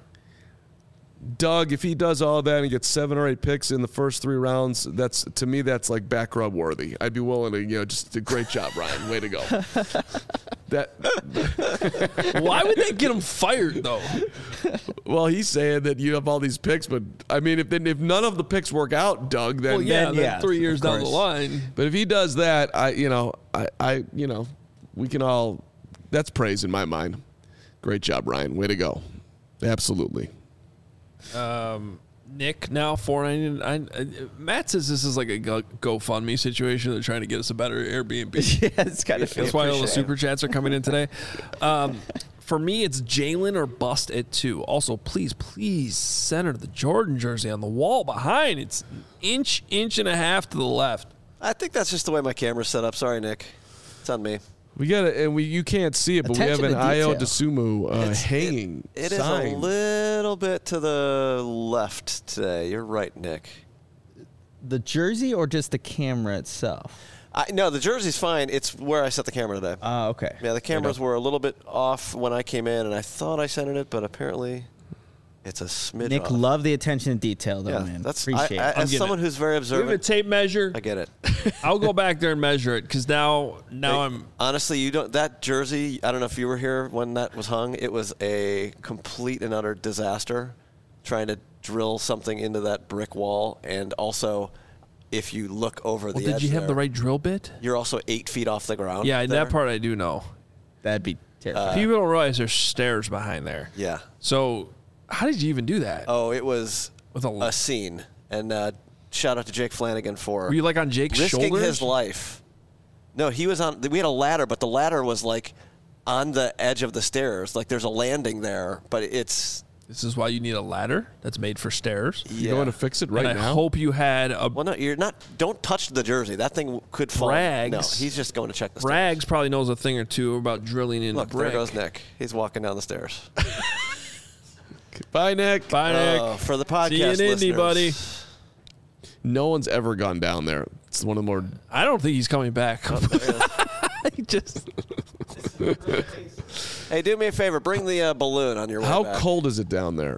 Doug, if he does all that and gets seven or eight picks in the first three rounds, that's to me that's like back rub worthy. I'd be willing to, you know, just a great job, Ryan. Way to go. That Why would they get him fired though? well, he's saying that you have all these picks, but I mean, if then if none of the picks work out, Doug, then Well, yeah, Then, then yeah, three of years down the course. line. But if he does that, I, you know, I, I, you know, we can all. That's praise in my mind. Great job, Ryan. Way to go. Absolutely. Nick now four ninety nine. Uh, Matt says this is like a Go- GoFundMe situation. They're trying to get us a better Airbnb. Yeah, it's kind of. That's why all the super chats are coming in today. Um, for me, it's Jalen or bust at two. Also, please, please center the Jordan jersey on the wall behind. It's an inch, inch and a half to the left. I think that's just the way my camera's set up. Sorry, Nick. It's on me. We got it, and we you can't see it, but Attention we have to an Io detail. DeSumo uh, It's- hanging It is sign. a little bit to the left today. You're right, Nick. The jersey or just the camera itself? I, no, the jersey's fine. It's where I set the camera today. Oh, okay. Yeah, the cameras were a little bit off when I came in, and I thought I centered it, but apparently it's a smidge Nick, off. love the attention to detail, though, yeah, man. that's Appreciate I, I, it. as getting someone it. who's very We have a observant. tape measure. I get it. I'll go back there and measure it because now, now Hey, I'm. honestly, you don't. That jersey. I don't know if you were here when that was hung. It was a complete and utter disaster, trying to drill something into that brick wall, and also, if you look over Well, the did edge you have there, the right drill bit? You're also eight feet off the ground. Yeah, there. that part I do know. That'd be terrible. People don't realize there's stairs behind there. Yeah. So, how did you even do that? Oh, it was With a- a scene, and uh, shout out to Jake Flanagan for Were you like on Jake's risking shoulders? his life. No, he was on. We had a ladder, but the ladder was like on the edge of the stairs. Like there's a landing there, but it's This is why you need a ladder that's made for stairs. Yeah. You going to fix it right and I now? hope you had a Well, no, you're not. Don't touch the jersey. That thing could fall. Rags. No, he's just going to check the stairs. Rags probably knows a thing or two about drilling in Look, a brick. there goes Nick. He's walking down the stairs. Bye, Nick. Bye, Nick. Uh, for the podcast See you in Indy, listeners. buddy. No one's ever gone down there. It's one of the more. I don't think he's coming back. Oh, there he is. He just Hey, do me a favor. Bring the uh, balloon on your way How back. cold is it down there?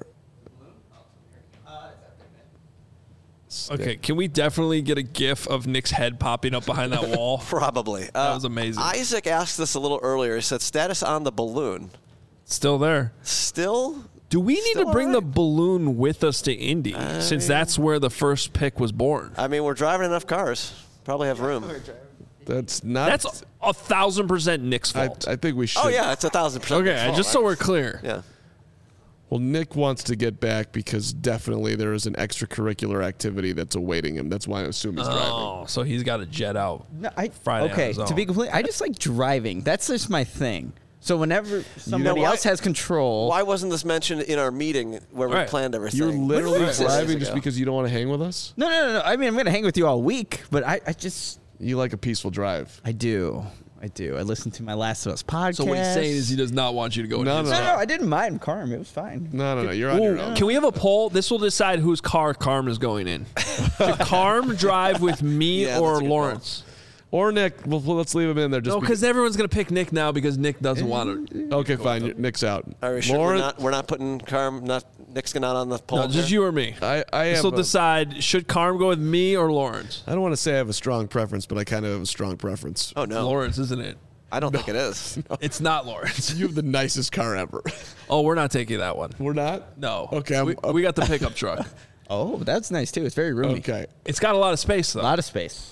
okay. Can we definitely get a GIF of Nick's head popping up behind that wall? Probably. Uh, That was amazing. Isaac asked this a little earlier. He said, status on the balloon. Still there. Still? Do we need Still to bring all the right. balloon with us to Indy, since that's where the first pick was born? I mean, we're driving enough cars. Probably have room. That's not. That's a thousand percent Nick's I, fault. Uh, I think we should. Oh, yeah, it's a thousand percent. okay, Nick's fault, just so right? we're clear. Yeah. Well, Nick wants to get back because definitely there is an extracurricular activity that's awaiting him. That's why I assume he's driving. Oh, so he's got to jet out. No, I, Friday on okay, his to own. be complete, I just like driving. That's just my thing. So whenever somebody why- else has control, Why wasn't this mentioned in our meeting where we Right. planned everything? You're literally Six days driving just ago. because you don't want to hang with us? no, no, no, no. I mean, I'm going to hang with you all week, but I, I just, You like a peaceful drive. I do, I do. I listened to my Last of Us podcast. So what he's saying is he does not want you to go. No, in his no, No, car. no, I didn't mind Carm. It was fine. No, no, no. You're on your Ooh, own. can we have a poll? This will decide whose car Carm is going in. Should Carm drive with me Yeah, or that's a good Lawrence? Or Nick. Well, let's leave him in there. Just No, because everyone's going to pick Nick now because Nick doesn't want to. because- okay, fine. Nick's out. Are we sure we're Lauren, not, we're not putting Carm, not Nick's not on the poll? No, just here? you or me. I, I This have. will a- decide should Carm go with me or Lawrence. I don't want to say I have a strong preference, but I kind of have a strong preference. Oh, no. Lawrence, isn't it? I don't think it is. It's not Lawrence. You have the nicest car ever. Oh, we're not taking that one. We're not. No. Okay, I'm- we, we got the pickup truck. Oh, that's nice too. It's very roomy. Okay. It's got a lot of space A though. lot of space.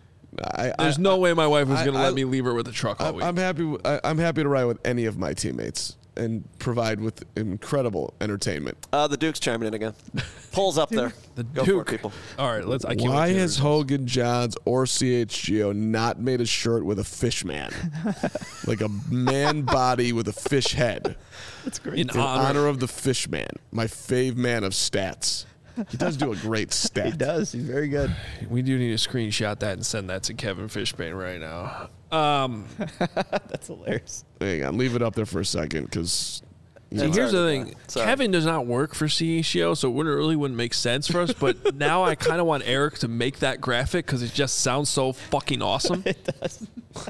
I, There's I, no way my wife was I- going to I- let me leave her with a truck all I'm, week. I'm happy. w- I, am happy to ride with any of my teammates and provide with incredible entertainment. Uh, the Duke's chiming in again. Polls up there. The Go Duke. for it, people. All right, let's. I can't Why wait to hear has the results. Hogan Johns or C H G O not made a shirt with a fish man, like a man body with a fish head, in in honor? honor of the fish man, my fave man of stats? He does do a great stat. He does. He's very good. We do need to screenshot that and send that to Kevin Fishbane right now. Um, That's hilarious. Hang on, leave it up there for a second, because see, That's here's the already thing: done. Sorry. Kevin does not work for C H G O, so it wouldn't really wouldn't make sense for us. But now I kind of want Eric to make that graphic because it just sounds so fucking awesome. It does.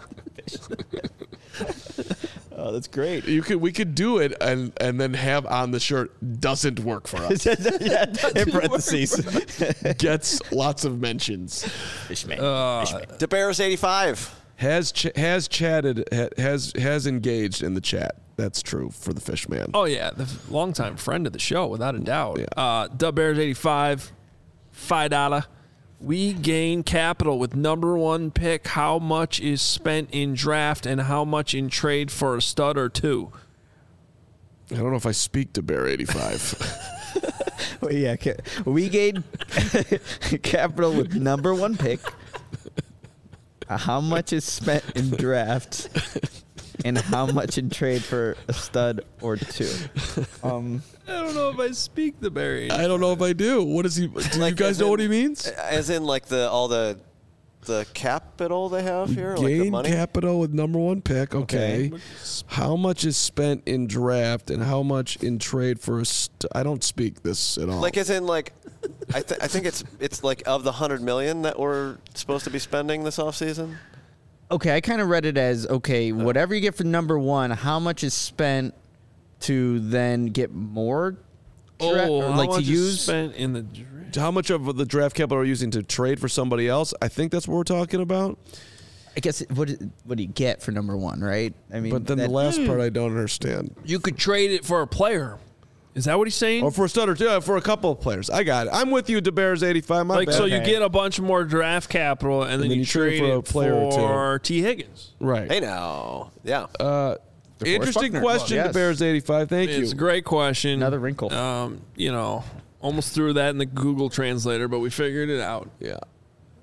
Oh, that's great. you could we could do it and and then have on the shirt doesn't work for us. yeah, in parentheses. Gets lots of mentions. Fishman. Uh, DeBears eighty-five. Has ch- has chatted ha- has has engaged in the chat. That's true for the fish man. Oh yeah, the f- longtime friend of the show, without a doubt. Yeah. Uh, Dub Bears eighty-five, five dollar. We gain capital with number one pick. How much is spent in draft and how much in trade for a stud or two? I don't know if I speak to Bear eighty-five. Well, yeah, ca- we gained capital with number one pick. Uh, how much is spent in draft, and how much in trade for a stud or two? Um, I don't know if I speak the Barry. I don't know if I do. What is he? Do you Like, guys as know in- what he means? As in, like, the all the the capital they have here? Like the Gain money? capital with number one pick. Okay. Okay. How much is spent in draft and how much in trade for a? St- I don't speak this at all. Like, as in, like, I, th- I think it's it's like of the one hundred million that we're supposed to be spending this offseason. okay, I kind of read it as okay, whatever you get for number one, how much is spent to then get more? dra- oh, or how like much to is use? spent in the draft? how much of the draft capital are you using to trade for somebody else? I think that's what we're talking about. I guess it- what what do you get for number one, right? I mean, But then that- the last part I don't understand. You could trade it for a player. Is that what he's saying? Or for a stutter too, for a couple of players. I got it. I'm with you, DeBears eighty-five. My like bad. so, you Okay. get a bunch more draft capital, and then, then you, you trade trade, for a it player or two. for T. Higgins. right. Hey, now. Yeah. Uh, interesting Buckner. question, Yes. DeBears eighty-five. Thank It's you. a great question. Another wrinkle. Um, you know, almost threw that in the Google Translator, but we figured it out. Yeah.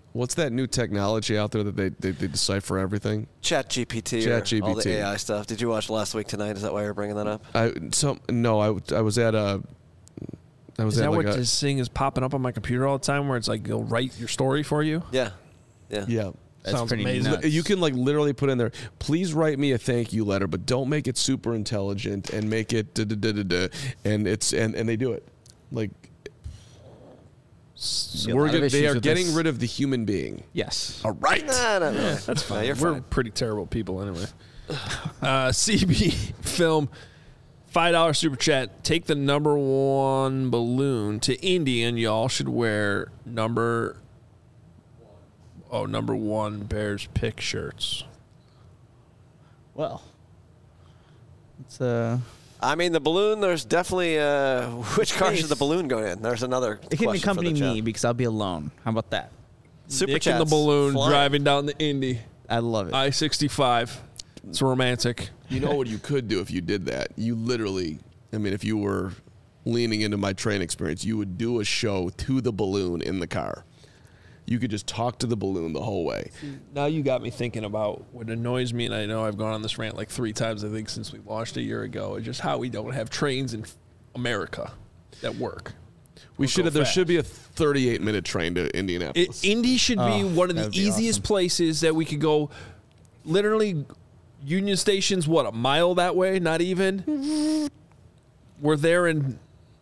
What's that new technology out there that they, they, they decipher everything? Chat G P T, Chat or G P T. all the A I stuff. Did you watch Last Week Tonight? Is that why you're bringing that up? I some no, I, I was at a. I was Is at that like what a, this thing is popping up on my computer all the time where it's like it'll write your story for you? Yeah. Yeah. yeah. That's Sounds pretty amazing. nuts. You can like literally put in there, please write me a thank you letter, but don't make it super intelligent and make it da da da da da. And it's and, and they do it. Like See a we're lot of gonna, they issues are with getting this. rid of the human being. Yes. All right. No, no, no. That's fine. No, you're We're fine. pretty terrible people anyway. uh, C B Film, five dollar super chat. Take the number one balloon to Indy, and y'all should wear number oh number one Bears pick shirts. Well, it's uh, I mean, the balloon, there's definitely, uh, which car should the Space. balloon go in? There's another it can question for accompany the chat. me because I'll be alone. How about that? Super Nick in the chats balloon flying. driving down the Indy I love it. I sixty-five. It's romantic. You know what you could do if you did that? You literally, I mean, if you were leaning into my train experience, you would do a show to the balloon in the car. You could just talk to the balloon the whole way. Now you got me thinking about what annoys me, and I know I've gone on this rant like three times, I think, since we launched a year ago, is just how we don't have trains in America that work. We Or should go have. There fast. should be a thirty-eight minute train to It, Indianapolis. Indy should be Oh, one of the that'd be easiest awesome. places that we could go. Literally, Union Station's what, a mile that way? Not even. We're there in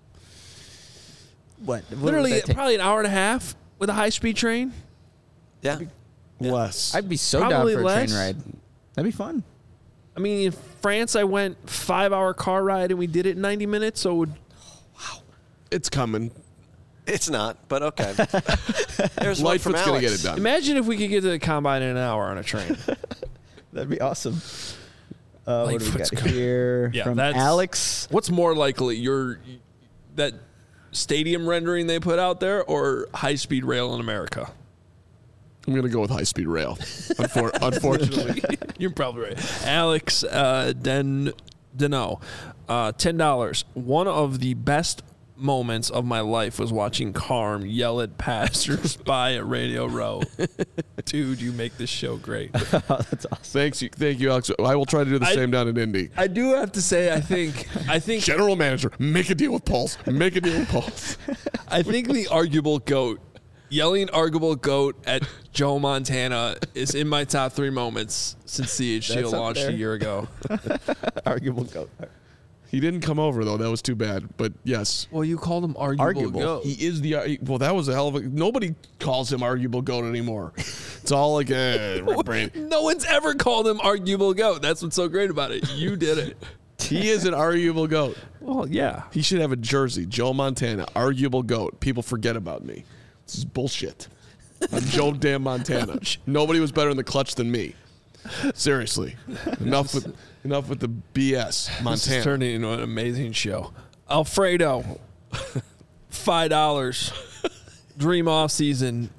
what? what would literally that take? probably an hour and a half with a high speed train. Yeah. Less. I'd be so Probably down for less. a train ride. That'd be fun. I mean, in France, I went five hour car ride and we did it in ninety minutes. So it would, It's coming. It's not, but okay. There's one from Lightfoot's gonna Alex. get it done. imagine if we could get to the combine in an hour on a train. That'd be awesome. Uh, what do we Lightfoot's got good. here Yeah, from that's- Alex? What's more likely, your that stadium rendering they put out there, or high speed rail in America? I'm gonna go with high speed rail. Unfor- unfortunately, You're probably right. Alex uh, Den Deno, uh, ten dollars. One of the best moments of my life was watching Carm yell at passers-by at Radio Row. Dude, you make this show great. Oh, that's awesome. thanks you, thank you, Alex. I will try to do the I- same down in Indy. I do have to say, I think, I think, General manager, make a deal with Pulse. Make a deal with Pulse. I think the arguable goat, yelling arguable goat at Joe Montana is in my top three moments since C H G O That's up launched a there. year ago. Arguable goat. He didn't come over though. That was too bad. But yes, Well, you called him arguable, Arguable. goat. he is the. uh, Well, that was a hell of a. Nobody calls him arguable goat anymore. It's all like, eh, brain. No one's ever called him arguable goat. That's what's so great about it. You did it. He is an arguable goat. Well, yeah. He should have a jersey. Joe Montana, arguable goat. People forget about me. This is bullshit. I'm Joe damn Montana. Nobody was better in the clutch than me. Seriously. Enough with enough with the B S. This is Montana. turning into an amazing show. Alfredo, five dollars. Dream off season.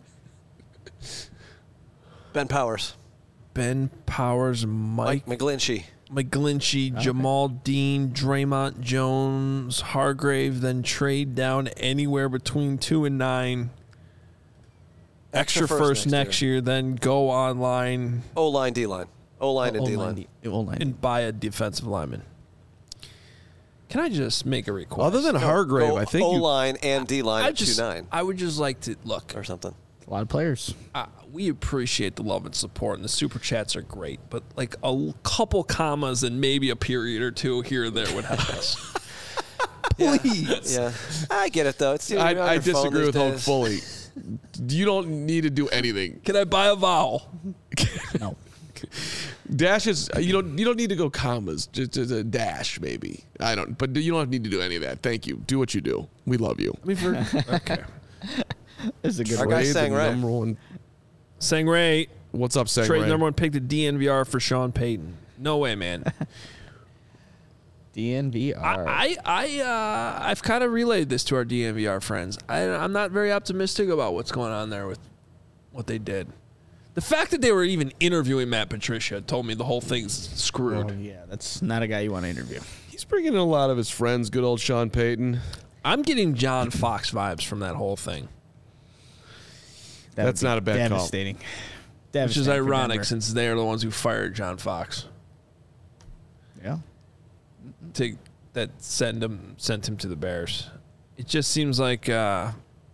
Ben Powers. Ben Powers, Mike Mike McGlinchey. McGlinchey, Jamal Dean, Draymond Jones, Hargrave, then trade down anywhere between two and nine. Extra, first, next year. then go online O-line, D-line. O-line and D-line. O-line. and buy a defensive lineman. Can I just make a request? Other than Hargrave, Go I think you, O-line and D-line I at just, two nine I would just like to look. or something. A lot of players. Uh, we appreciate the love and support, and the super chats are great. But like a l- couple commas and maybe a period or two here or there would help us. Please. Yeah. I get it, though. It's I, you're on I your phone disagree these with Hulk days. fully. You don't need to do anything. Can I buy a vowel? No. Dash is you don't you don't need to go commas. Just, just a dash maybe. I don't. But you don't need to do any of that. Thank you. Do what you do. We love you. I mean, for, okay. This is a good Our one. guy Ray, sang the right. number one. Sangray, What's up, Sang trade Ray? number one pick to D N V R for Sean Payton. No way, man. D N V R. I, I, I uh, I've kind of relayed this to our D N V R friends. I, I'm not very optimistic about what's going on there with what they did. The fact that they were even interviewing Matt Patricia told me the whole thing's screwed. Oh, yeah, that's not a guy you want to interview. He's bringing in a lot of his friends. Good old Sean Payton. I'm getting John Fox vibes from that whole thing. That That's would be not a bad call. devastating. Which is Devastating for ironic Denver. since they are the ones who fired John Fox. Yeah. To that send him sent him to the Bears. It just seems like, uh,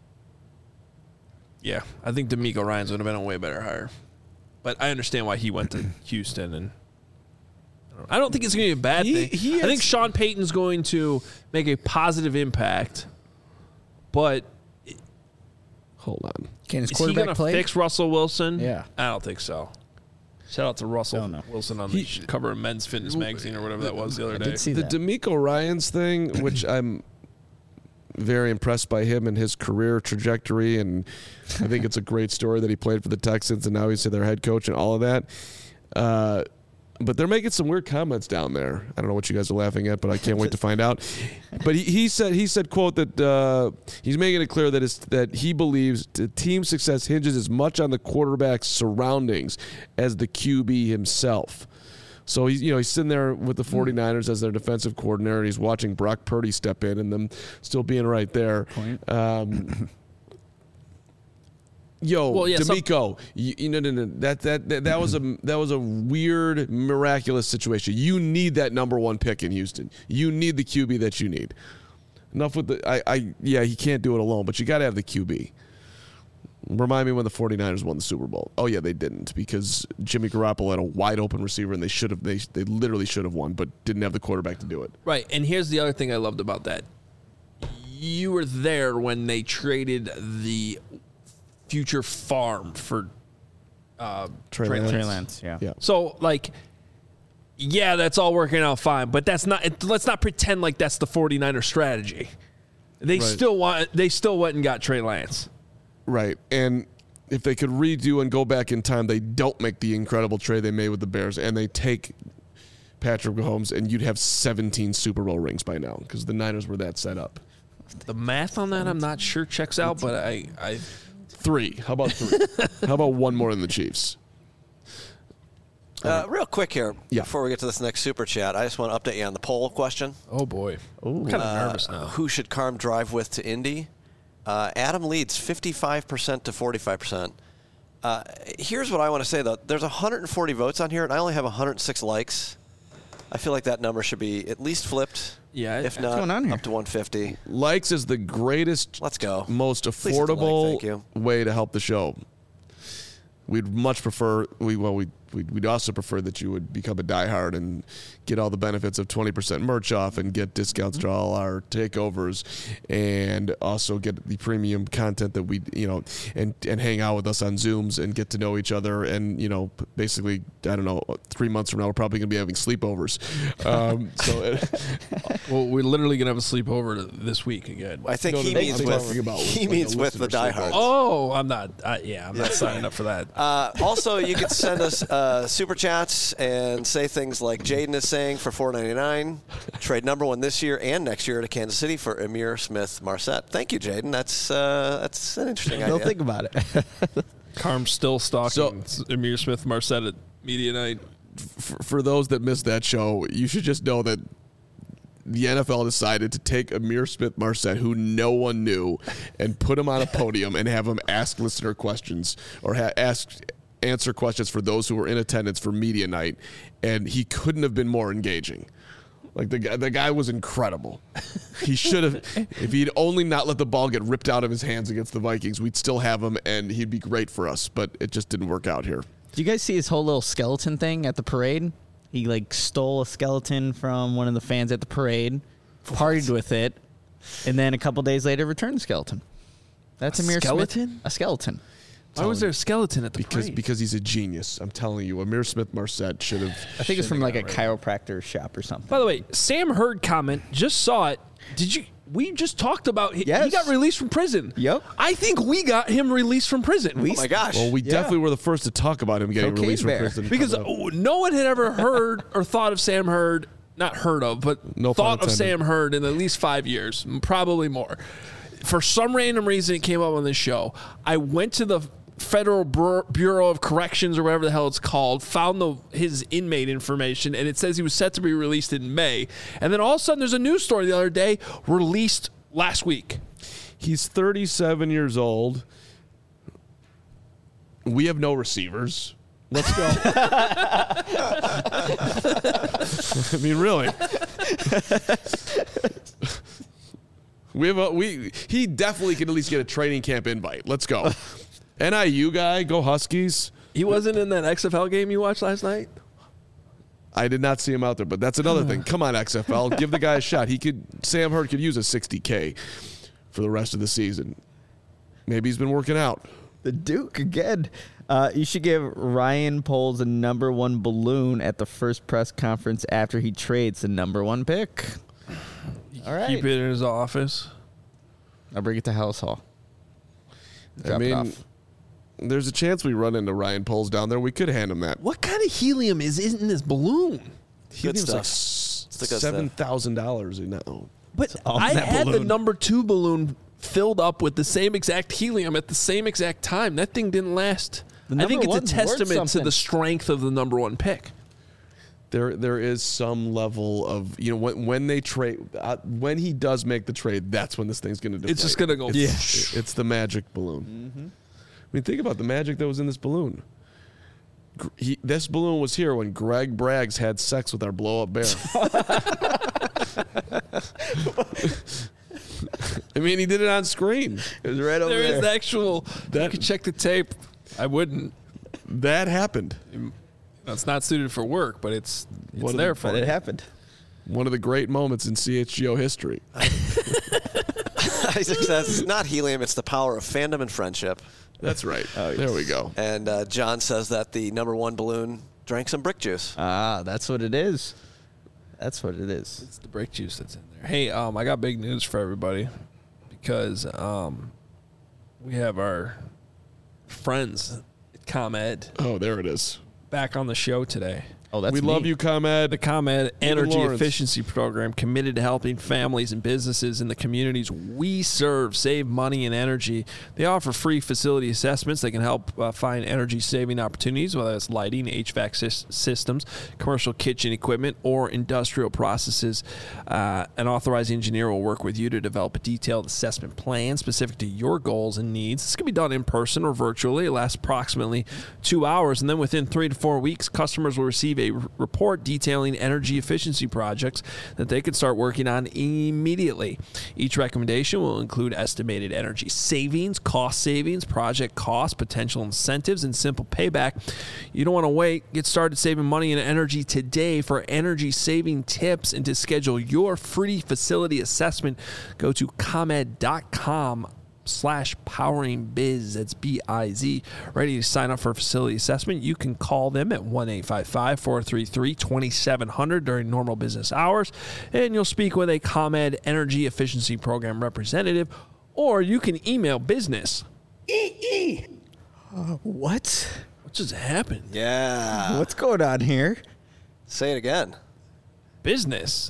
yeah, I think D'Amico Ryans would have been a way better hire. But I understand why he went to Houston, and I don't, I don't think it's going to be a bad He- thing. he I has- think Sean Payton's going to make a positive impact, but Hold on. Can his is he quarterback going to play? fix Russell Wilson? Yeah. I don't think so. Shout out to Russell Don't know. Wilson on He- the cover of Men's Fitness magazine or whatever that was the other I day. did see The that. D'Amico Ryans thing, which I'm very impressed by him and his career trajectory, and I think it's a great story that he played for the Texans and now he's their head coach and all of that. Uh, but they're making some weird comments down there. I don't know what you guys are laughing at, but I can't wait to find out. But he, he said, he said, quote, that uh, he's making it clear that it's, that he believes the team's success hinges as much on the quarterback's surroundings as the Q B himself. So he's, you know, he's sitting there with the 49ers as their defensive coordinator. And he's watching Brock Purdy step in and them still being right there. Um, yo, Well, yeah, some- D'Amico, you, you know, no, no, that that that that was a that was a weird, miraculous situation. You need that number one pick in Houston. You need the Q B that you need. Enough with the, I, I yeah, he can't do it alone, but you got to have the Q B. Remind me when the 49ers won the Super Bowl. Oh, yeah, they didn't because Jimmy Garoppolo had a wide open receiver and they should have, they, they literally should have won, but didn't have the quarterback to do it. Right, and here's the other thing I loved about that. You were there when they traded the future farm for uh, Trey Trey Lance. Trey Lance, yeah. Yeah. So, like, yeah, that's all working out fine, but that's not. It, let's not pretend like that's the 49er strategy. They Right. still want. They still went and got Trey Lance. Right. And if they could redo and go back in time, they don't make the incredible trade they made with the Bears, and they take Patrick Mahomes, and you'd have seventeen Super Bowl rings by now because the Niners were that set up. The math on that, I'm not sure checks out, but I, I Three. How about three? How about one more than the Chiefs? Uh, real quick here, Yeah. before we get to this next super chat, I just want to update you on the poll question. oh boy, I'm kind of Uh, nervous now. Who should Carm drive with to Indy? Uh, Adam leads fifty-five percent to forty-five percent. Uh, here's what I want to say, though. There's one hundred forty votes on here, and I only have one hundred six likes. I feel like that number should be at least flipped. Yeah, if what's not, going on here? up to one fifty. Likes is the greatest, Let's go. most least it's a like, affordable thank you. way to help the show. We'd much prefer we well we we'd, we'd also prefer that you would become a diehard and get all the benefits of twenty percent merch off and get discounts to all our takeovers and also get the premium content that we you know and and hang out with us on Zooms and get to know each other and you know basically I don't know three months from now we're probably gonna be having sleepovers. Um, so it, Well, we're literally gonna have a sleepover this week again. I think No, he no, means I'm with talking about he like a means with the listener sleepover. diehards. Oh, I'm not. Uh, yeah, I'm not signing up for that. Uh, also, you can send us uh, super chats and say things like Jaden is saying for four ninety-nine. Trade number one this year and next year to Kansas City for Amir Smith Marset. Thank you, Jaden. That's uh, that's an interesting Don't idea. think about it. Carm's still stalking Amir Smith Marset at media night. for, for those that missed that show, you should just know that the N F L decided to take Amir Smith Marset, who no one knew, and put him on a podium and have him ask listener questions or ha- ask answer questions for those who were in attendance for media night, and he couldn't have been more engaging. Like the guy, the guy was incredible. He should have, if he'd only not let the ball get ripped out of his hands against the Vikings, we'd still have him, and he'd be great for us. But it just didn't work out here. Did you guys see his whole little skeleton thing at the parade? He like stole a skeleton from one of the fans at the parade, partied with it, and then a couple days later returned the skeleton. That's A Amir skeleton? Smith. A skeleton. Why was there a skeleton at the Because parade? because he's a genius. I'm telling you, Amir Smith Marset should have. I think it's from like a got chiropractor shop or something. By the way, Sam Hurd comment, just saw it. Did you? We just talked about he, Yes. he got released from prison. Yep. I think we got him released from prison. Oh my gosh. Well, we Yeah. definitely were the first to talk about him getting Cocaine released bear. from prison. because Coming up. oh, no one had ever heard or thought of Sam Hurd, not heard of, but No pun thought of intended. Sam Hurd in at least five years, probably more. For some random reason, it came up on this show. I went to the Federal Bur- Bureau of Corrections or whatever the hell it's called, found the his inmate information, and it says he was set to be released in May. And then all of a sudden, there's a news story the other day, released last week. He's thirty-seven years old. We have no receivers. Let's go. I mean, really. We have a, we. He definitely could at least get a training camp invite. Let's go. N I U guy, go Huskies. He wasn't in that X F L game you watched last night? I did not see him out there, but that's another thing. Come on, X F L, give the guy a shot. He could. Sam Hurd could use a sixty K for the rest of the season. Maybe he's been working out. The Duke again. Uh, you should give Ryan Poles a number one balloon at the first press conference after he trades the number one pick. All right. Keep it in his office. I'll bring it to House Hall. Drop I mean, it off. there's a chance we run into Ryan Poles down there. We could hand him that. What kind of helium is in this balloon? Good Helium's like stuff. It's the good seven stuff. thousand dollars. You know. But on I that had the balloon. number two balloon filled up with the same exact helium at the same exact time. That thing didn't last. The I think number it's a one's worth testament to something. the strength of the number one pick. There, there is some level of, you know, when, when they trade, uh, when he does make the trade, that's when this thing's going to deflate. It's just gonna go- It's, it's the magic balloon. Mm-hmm. I mean, think about the magic that was in this balloon. Gr- He, this balloon was here when Greg Braggs had sex with our blow-up bear. I mean, he did it on screen. It was right over There there. is actual. That- you could check the tape. I wouldn't. That happened. It's not suited for work, but it's it's What a- there for But it. it happened. One of the great moments in C H G O history. Isaac says it's not helium, it's the power of fandom and friendship. That's right. Oh, There we go. And uh, John says that the number one balloon drank some brick juice. Ah, that's what it is. That's what it is. It's the brake juice that's in there. Hey, um, I got big news for everybody because um, we have our friends at ComEd Oh, there it is. back on the show today. Oh, that's we me. love you, ComEd. The ComEd Energy Lawrence. Efficiency Program, committed to helping families and businesses in the communities we serve save money and energy. They offer free facility assessments that can help uh, find energy-saving opportunities, whether it's lighting, H V A C sys- systems, commercial kitchen equipment, or industrial processes. Uh, an authorized engineer will work with you to develop a detailed assessment plan specific to your goals and needs. This can be done in person or virtually. It lasts approximately two hours, and then within three to four weeks, customers will receive a r- report detailing energy efficiency projects that they can start working on immediately. Each recommendation will include estimated energy savings, cost savings, project costs, potential incentives, and simple payback. You don't want to wait. Get started saving money and energy today. For energy saving tips and to schedule your free facility assessment, go to comed dot com slash powering biz. That's B I Z. Ready to sign up for a facility assessment? You can call them at one eight five five, four three three, two seven zero zero during normal business hours, and you'll speak with a ComEd Energy Efficiency Program representative, or you can email business. What? What just happened? Yeah. What's going on here? Say it again. Business.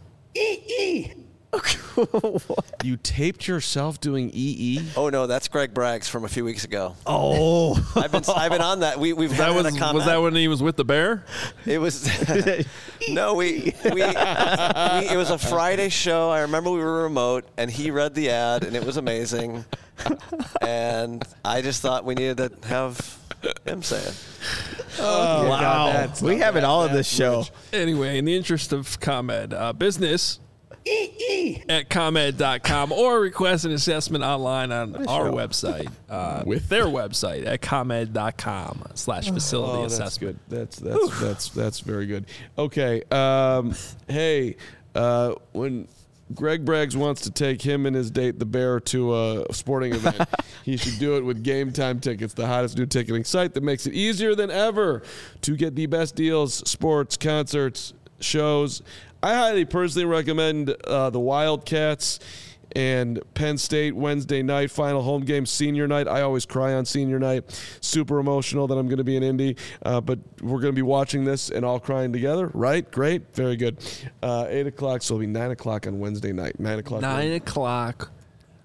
You taped yourself doing E E? Oh no, that's Greg Braggs from a few weeks ago. Oh. I've been I've been on that. We we've That had was, a comment. was that when he was with the bear? It was no, we, we we it was a Friday show. I remember we were remote, and he read the ad, and it was amazing. And I just thought we needed to have him say it. Oh, Wow. that's We not have it bad. all in That's this show. rich. Anyway, in the interest of ComEd, uh, business at comed dot com or request an assessment online on our website, uh, with their website at comed dot com slash facility Oh, that's assessment. good. That's that's that's that's very good. Okay. Um, hey, uh, when Greg Braggs wants to take him and his date, the bear, to a sporting event, he should do it with Game Time Tickets, the hottest new ticketing site that makes it easier than ever to get the best deals, sports, concerts, shows. I highly personally recommend uh, the Wildcats and Penn State Wednesday night, final home game, senior night. I always cry on senior night. Super emotional that I'm going to be in Indy, uh, but we're going to be watching this and all crying together, right? Great. Very good. Uh, eight o'clock, so it'll be nine o'clock on Wednesday night. nine o'clock. Nine o'clock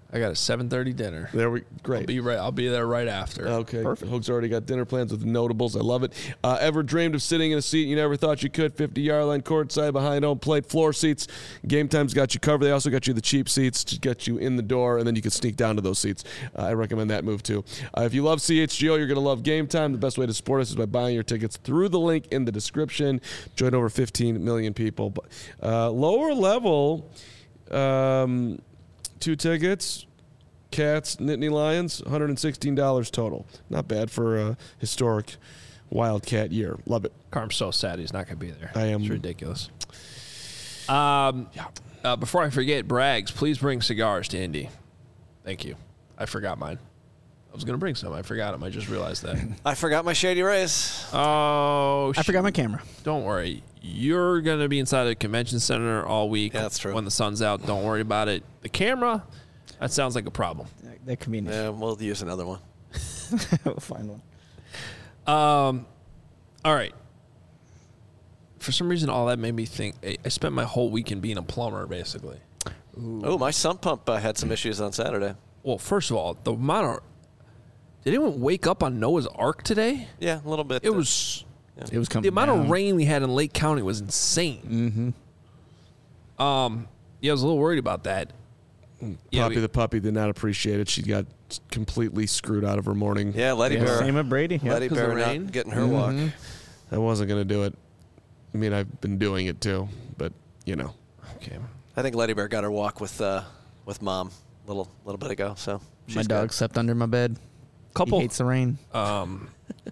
I got a seven thirty dinner. There we I'll great. be right. I'll be there right after. Okay, Hook's already got dinner plans with the notables. I love it. Uh, ever dreamed of sitting in a seat you never thought you could? fifty-yard line, courtside, behind home plate, floor seats. Game Time's got you covered. They also got you the cheap seats to get you in the door, and then you can sneak down to those seats. Uh, I recommend that move, too. Uh, if you love C H G O, you're going to love Game Time. The best way to support us is by buying your tickets through the link in the description. Join over fifteen million people. Uh, lower level, um, two tickets. Cats, Nittany Lions, one hundred sixteen dollars total. Not bad for a historic Wildcat year. Love it. Carm's so sad he's not going to be there. I am. It's ridiculous. Um, uh, before I forget, Braggs, please bring cigars to Indy. Thank you. I forgot mine. I was going to bring some. I forgot them. I just realized that. I forgot my Shady Rays. Oh, I forgot my camera. Don't worry. You're going to be inside the convention center all week. Yeah, that's true. When the sun's out, don't worry about it. The camera, that sounds like a problem. That, that could be an issue. Yeah, we'll use another one. We'll find one. Um, all right. For some reason, all that made me think. I I spent my whole weekend being a plumber, basically. Oh, my sump pump uh, had some issues on Saturday. Well, first of all, the amount of. Did anyone wake up on Noah's Ark today? Yeah, a little bit. It was. It was coming The amount down. of rain we had in Lake County was insane. Mm-hmm. Um, yeah, I was a little worried about that. Yeah, Poppy we- the puppy did not appreciate it. She got completely screwed out of her morning. Yeah, Letty Yeah, Bear. same with Brady. Yeah. Letty 'Cause of Bear the not rain? getting her walk. I wasn't going to do it. I mean, I've been doing it too, but, you know. Okay. I think Letty Bear got her walk with uh, with Mom a little, little bit ago. So she's My dog good. slept under my bed. Couple. He hates the rain. Um.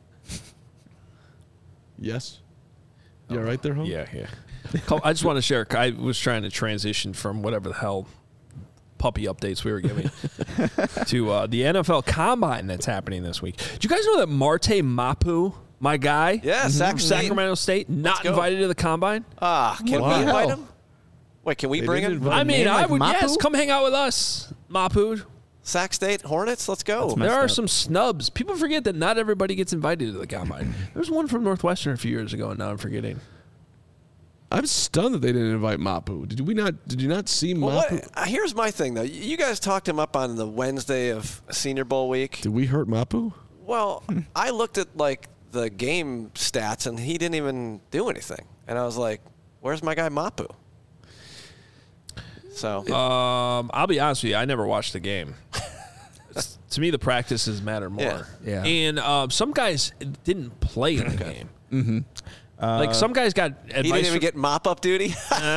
Yes? You all right there, home? Yeah, yeah. Couple- I just want to share. I was trying to transition from whatever the hell puppy updates we were giving to uh, the N F L Combine that's happening this week. Do you guys know that Marte Mapu, my guy, Yeah, from Sac State. Sacramento State, not go. invited to the Combine? Ah, can Wow. we invite him? Wait, can we They bring didn't him? invite I mean, name I like would. Mapu? Yes, come hang out with us, Mapu. Sac State Hornets, let's go. That's There messed are up. some snubs. People forget that not everybody gets invited to the Combine. There was one from Northwestern a few years ago, and now I'm forgetting. I'm stunned that they didn't invite Mapu. Did we not? Did you not see Well, Mapu? what, uh, here's my thing, though. You guys talked him up on the Wednesday of Senior Bowl week. Did we hurt Mapu? Well, I looked at like the game stats, and he didn't even do anything. And I was like, "Where's my guy Mapu?" So Um, I'll be honest with you. I never watched the game. It's- to me, the practices matter more. Yeah. Yeah. And uh, some guys didn't play in the game. Mm-hmm. like some guys got advice. he didn't even from- get mop up duty.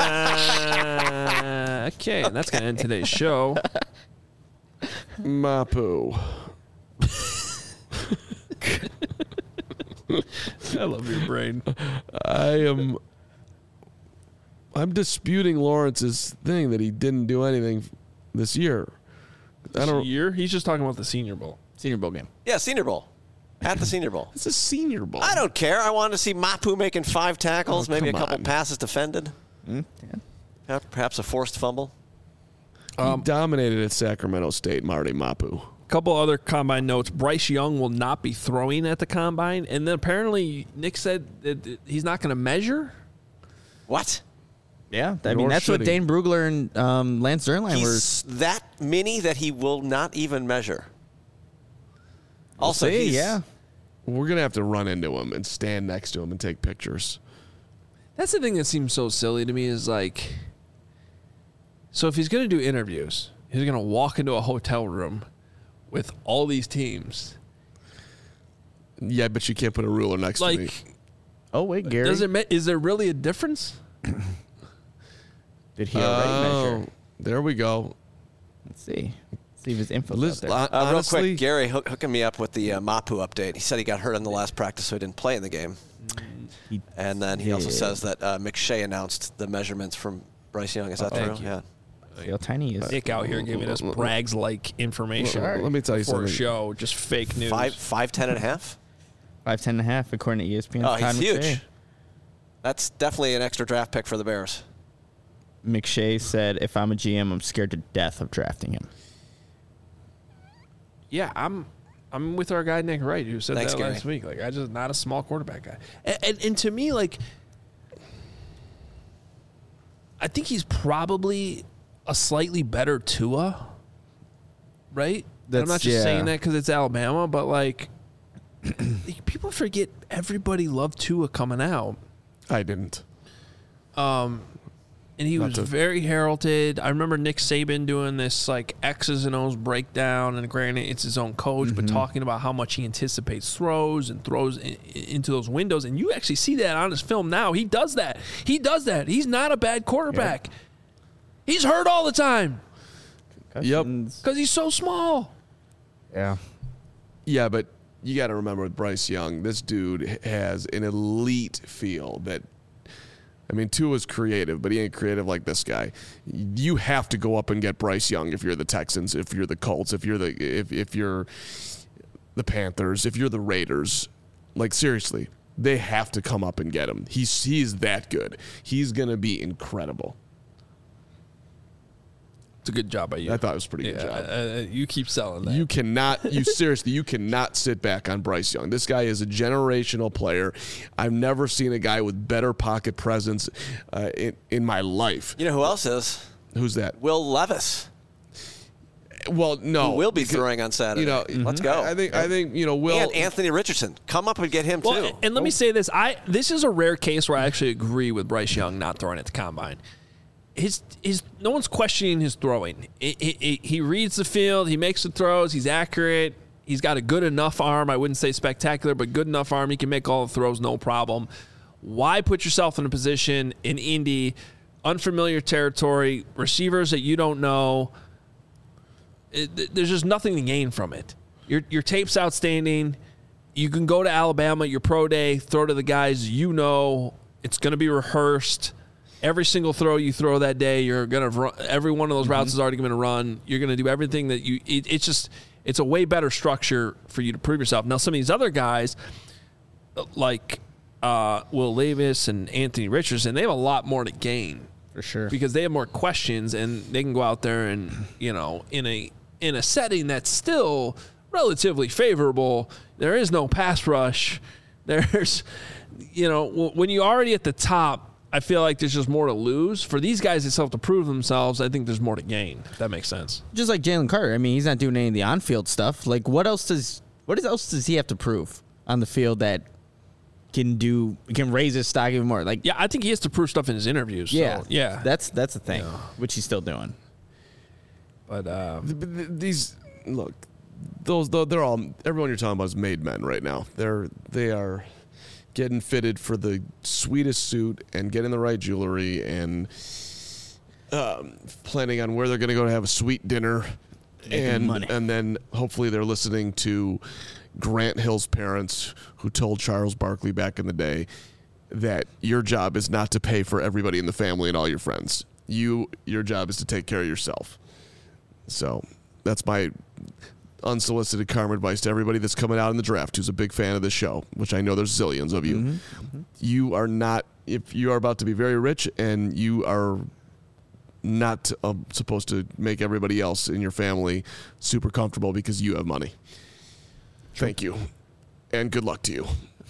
Uh, okay, and that's gonna end today's show. Mapu. I love your brain. I am. I'm disputing Lawrence's thing that he didn't do anything this year. I don't. Year? He's just talking about the Senior Bowl. Senior Bowl game. yeah, Senior Bowl. At the Senior Bowl. It's a Senior Bowl. I don't care. I wanted to see Mapu making five tackles, Oh, maybe a come couple on. passes defended, Mm, yeah. uh, perhaps a forced fumble. He dominated at Sacramento State, Marty Mapu. Couple other Combine notes. Bryce Young will not be throwing at the Combine, and then apparently Nick said that he's not going to measure. What? Yeah, I Nor mean that's should what he. Dane Brugler and um, Lance Zierlein were. He's that mini that he will not even measure. Also, see, he's, yeah. We're gonna have to run into him and stand next to him and take pictures. That's the thing that seems so silly to me is like, so if he's going to do interviews, he's going to walk into a hotel room with all these teams. Yeah, but you can't put a ruler next to me. Like, Oh wait, Gary. does it? ma- Is there really a difference? Did he already Oh, measure? there we go. Let's see. Let's see if his info. Liz, there. uh, Uh, real honestly, quick, Gary hook, hooking me up with the uh, Mapu update. He said he got hurt in the last practice, so he didn't play in the game. He And then he also did. says that uh, McShay announced the measurements from Bryce Young. Is that Thank true? you. Yeah. See how tiny he is. Nick out here giving us Braggs like information Let- let me tell you for a something. show, just fake news. Five, five, ten and a half. Five ten and a half according to E S P N. Oh, he's Todd huge. McShay. That's definitely an extra draft pick for the Bears. McShay said, "If I'm a G M, I'm scared to death of drafting him." Yeah, I'm I'm with our guy Nick Wright, who said Thanks, that Gary. last week. Like, I just not a small quarterback guy, and, and and to me, like, I think he's probably a slightly better Tua, right? And That's- I'm not just yeah. saying that because it's Alabama, but like people forget everybody loved Tua coming out. I didn't. And he Not was to- very heralded. I remember Nick Saban doing this like X's and O's breakdown, and granted it's his own coach, Mm-hmm. but talking about how much he anticipates throws and throws in, into those windows. And you actually see that on his film now. He does that. He does that. He's not a bad quarterback. He's hurt all the time Yep. because he's so small. Yeah. Yeah, but you got to remember with Bryce Young, this dude has an elite feel that. I mean, Tua's creative, but he ain't creative like this guy. You have to go up and get Bryce Young if you're the Texans, if you're the Colts, if you're the if if you're the Panthers, if you're the Raiders. Like seriously, they have to come up and get him. He's he's that good. He's gonna be incredible. It's a good job by you. I thought it was a pretty yeah, good job. uh, you keep selling that. You cannot, you seriously, you cannot sit back on Bryce Young. This guy is a generational player. I've never seen a guy with better pocket presence uh, in in my life. You know who else is? Who's that? Will Levis. Well, no, Who will be because, throwing on Saturday. You know, Let's go. I think I think you know Will. And Anthony Richardson. Come up and get him, Well, too. and let me say this: I this is a rare case where I actually agree with Bryce Young not throwing at the combine. His his no one's questioning his throwing. It, it, it, he reads the field. He makes the throws. He's accurate. He's got a good enough arm. I wouldn't say spectacular, but good enough arm. He can make all the throws, no problem. Why put yourself in a position in Indy, unfamiliar territory, receivers that you don't know? It, there's just nothing to gain from it. Your your tape's outstanding. You can go to Alabama, your pro day, throw to the guys you know. It's going to be rehearsed. Every single throw you throw that day, you're going to run. Every one of those routes is already going to run. You're going to do everything that you. It, it's just it's a way better structure for you to prove yourself. Now, some of these other guys, like uh, Will Levis and Anthony Richardson, they have a lot more to gain For sure. because they have more questions and they can go out there and, you know, in a in a setting that's still relatively favorable. There is no pass rush. There's, you know, when you're already at the top, I feel like there's just more to lose. For these guys that still have to prove themselves, I think there's more to gain, if that makes sense. Just like Jalen Carter. I mean, he's not doing any of the on-field stuff. Like, what else does what else does he have to prove on the field that can do can raise his stock even more? Like, Yeah, I think he has to prove stuff in his interviews. yeah, So, yeah. That's that's the thing, Yeah. which he's still doing. But uh, Th- th- These look, those though they're all everyone you're talking about is made men right now. They're they are getting fitted for the sweetest suit and getting the right jewelry and um, planning on where they're going to go to have a sweet dinner, and money. and then hopefully they're listening to Grant Hill's parents, who told Charles Barkley back in the day that your job is not to pay for everybody in the family and all your friends. You your job is to take care of yourself. So that's my unsolicited karma advice to everybody that's coming out in the draft who's a big fan of this show, which I know there's zillions of you. Mm-hmm. You are not, if you are about to be very rich and you are not uh, supposed to make everybody else in your family super comfortable because you have money. Thank you. And good luck to you.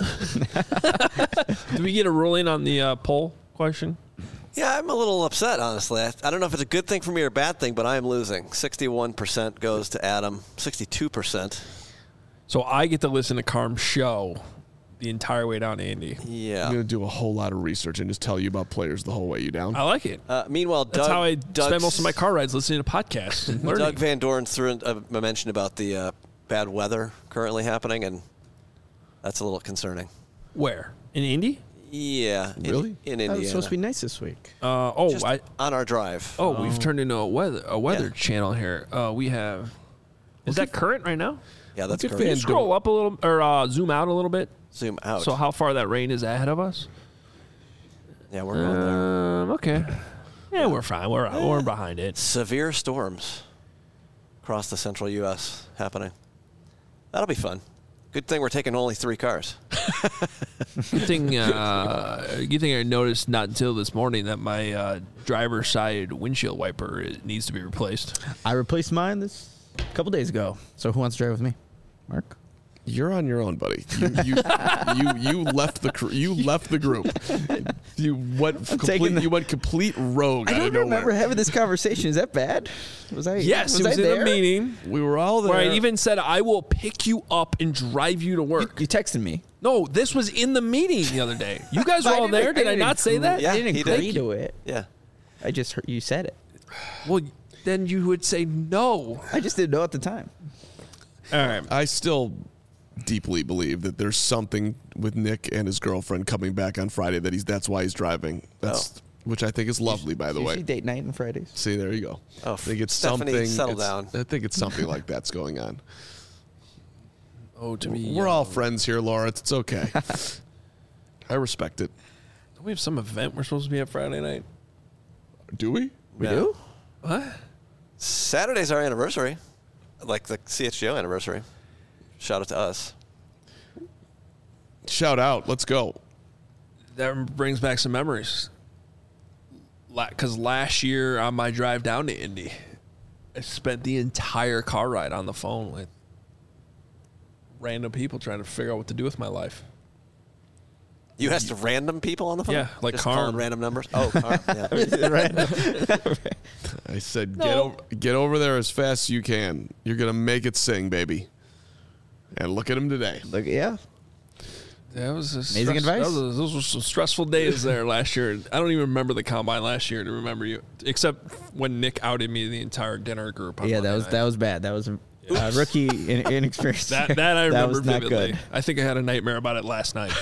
do we get a ruling on the uh, poll question? Yeah, I'm a little upset, honestly. I, I don't know if it's a good thing for me or a bad thing, but I am losing. sixty-one percent goes to Adam, sixty-two percent. So I get to listen to Carm's show the entire way down to Indy. Yeah. I'm going to do a whole lot of research and just tell you about players the whole way you down. I like it. Uh, meanwhile, Doug, That's how I Doug's- spend most of my car rides, listening to podcasts and learning. Doug Van Dorn threw in, uh, mentioned about the uh, bad weather currently happening, and that's a little concerning. Where? In Indy? Yeah. in- Really? In, That Indiana. was supposed to be nice this week. Uh, oh, Just I, on our drive. oh, we've turned into a weather a weather Yeah. channel here. Uh, we have. Is that current right now? Yeah, that's Look at correct. Van Scroll up a little, or uh, zoom out a little bit. Zoom out. So how far that rain is ahead of us? yeah, we're going there. Um, okay. Yeah, we're fine. We're we're behind it. Severe storms across the central U S happening. That'll be fun. Good thing we're taking only three cars. Good thing. Uh, good thing I noticed not until this morning that my uh, driver's side windshield wiper is- needs to be replaced. I replaced mine this a couple days ago. So who wants to drive with me? Mark? You're on your own, buddy. You you you, you left the cr- you left the group. You went taking complete. the- You went complete rogue. I out don't of nowhere. remember having this conversation. Is that bad? Was I? Yes, was it was I in there? a meeting We were all there. where I even said, I will pick you up and drive you to work. You texted me. No, this was in the meeting the other day. You guys were I all didn't- there. Did I didn't not say agree- that? Yeah, I didn't he did. agree to it. Yeah. I just heard you said it. Well, then you would say no. I just didn't know at the time. All right. I still deeply believe that there's something with Nick and his girlfriend coming back on Friday. That he's that's why he's driving. That's which I think is lovely, by the Usually way. date night on Fridays. See, there you go. Oh, I think it's Stephanie, something. settle it's- down. I think it's something like that's going on. Oh, to me. We're all friends here, Laura. It's, it's okay. I respect it. Don't we have some event we're supposed to be at Friday night? Do we? We Yeah. do? What? Saturday's our anniversary, like the C H G O anniversary. Shout out to us. Shout out. Let's go. That brings back some memories. Because last year on my drive down to Indy, I spent the entire car ride on the phone with random people trying to figure out what to do with my life. You asked random people on the phone? Yeah, like Just Carm. calling random numbers? Oh, Carm, yeah. I said, No. get over, get over there as fast as you can. You're gonna make it sing, baby. And look at him today. Look, yeah. That was a Amazing stress- advice. that was a- those were some stressful days there last year. I don't even remember the combine last year to remember you, except when Nick outed me to the entire dinner group. On Yeah, that Monday was night. that was bad. That was uh, rookie in, inexperience. That that I remember was not vividly. good. I think I had a nightmare about it last night.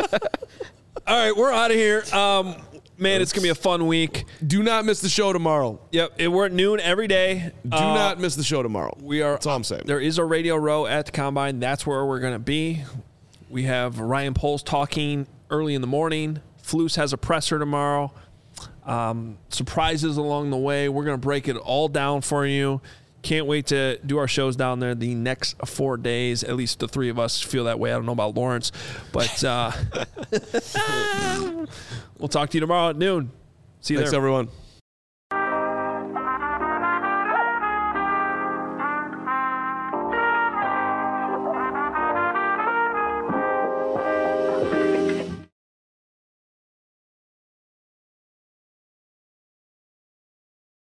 All right, we're out of here. Um, man, it's gonna be a fun week. Do not miss the show tomorrow. Yep, it, we're at noon every day. Do Uh, not miss the show tomorrow. We are. That's all I'm saying. There is a radio row at the combine. That's where we're gonna be. We have Ryan Poles talking early in the morning. Flus has a presser tomorrow. Um, surprises along the way. We're gonna break it all down for you. Can't wait to do our shows down there the next four days. At least the three of us feel that way. I don't know about Lawrence, but uh, we'll talk to you tomorrow at noon. See you Thanks, there. everyone.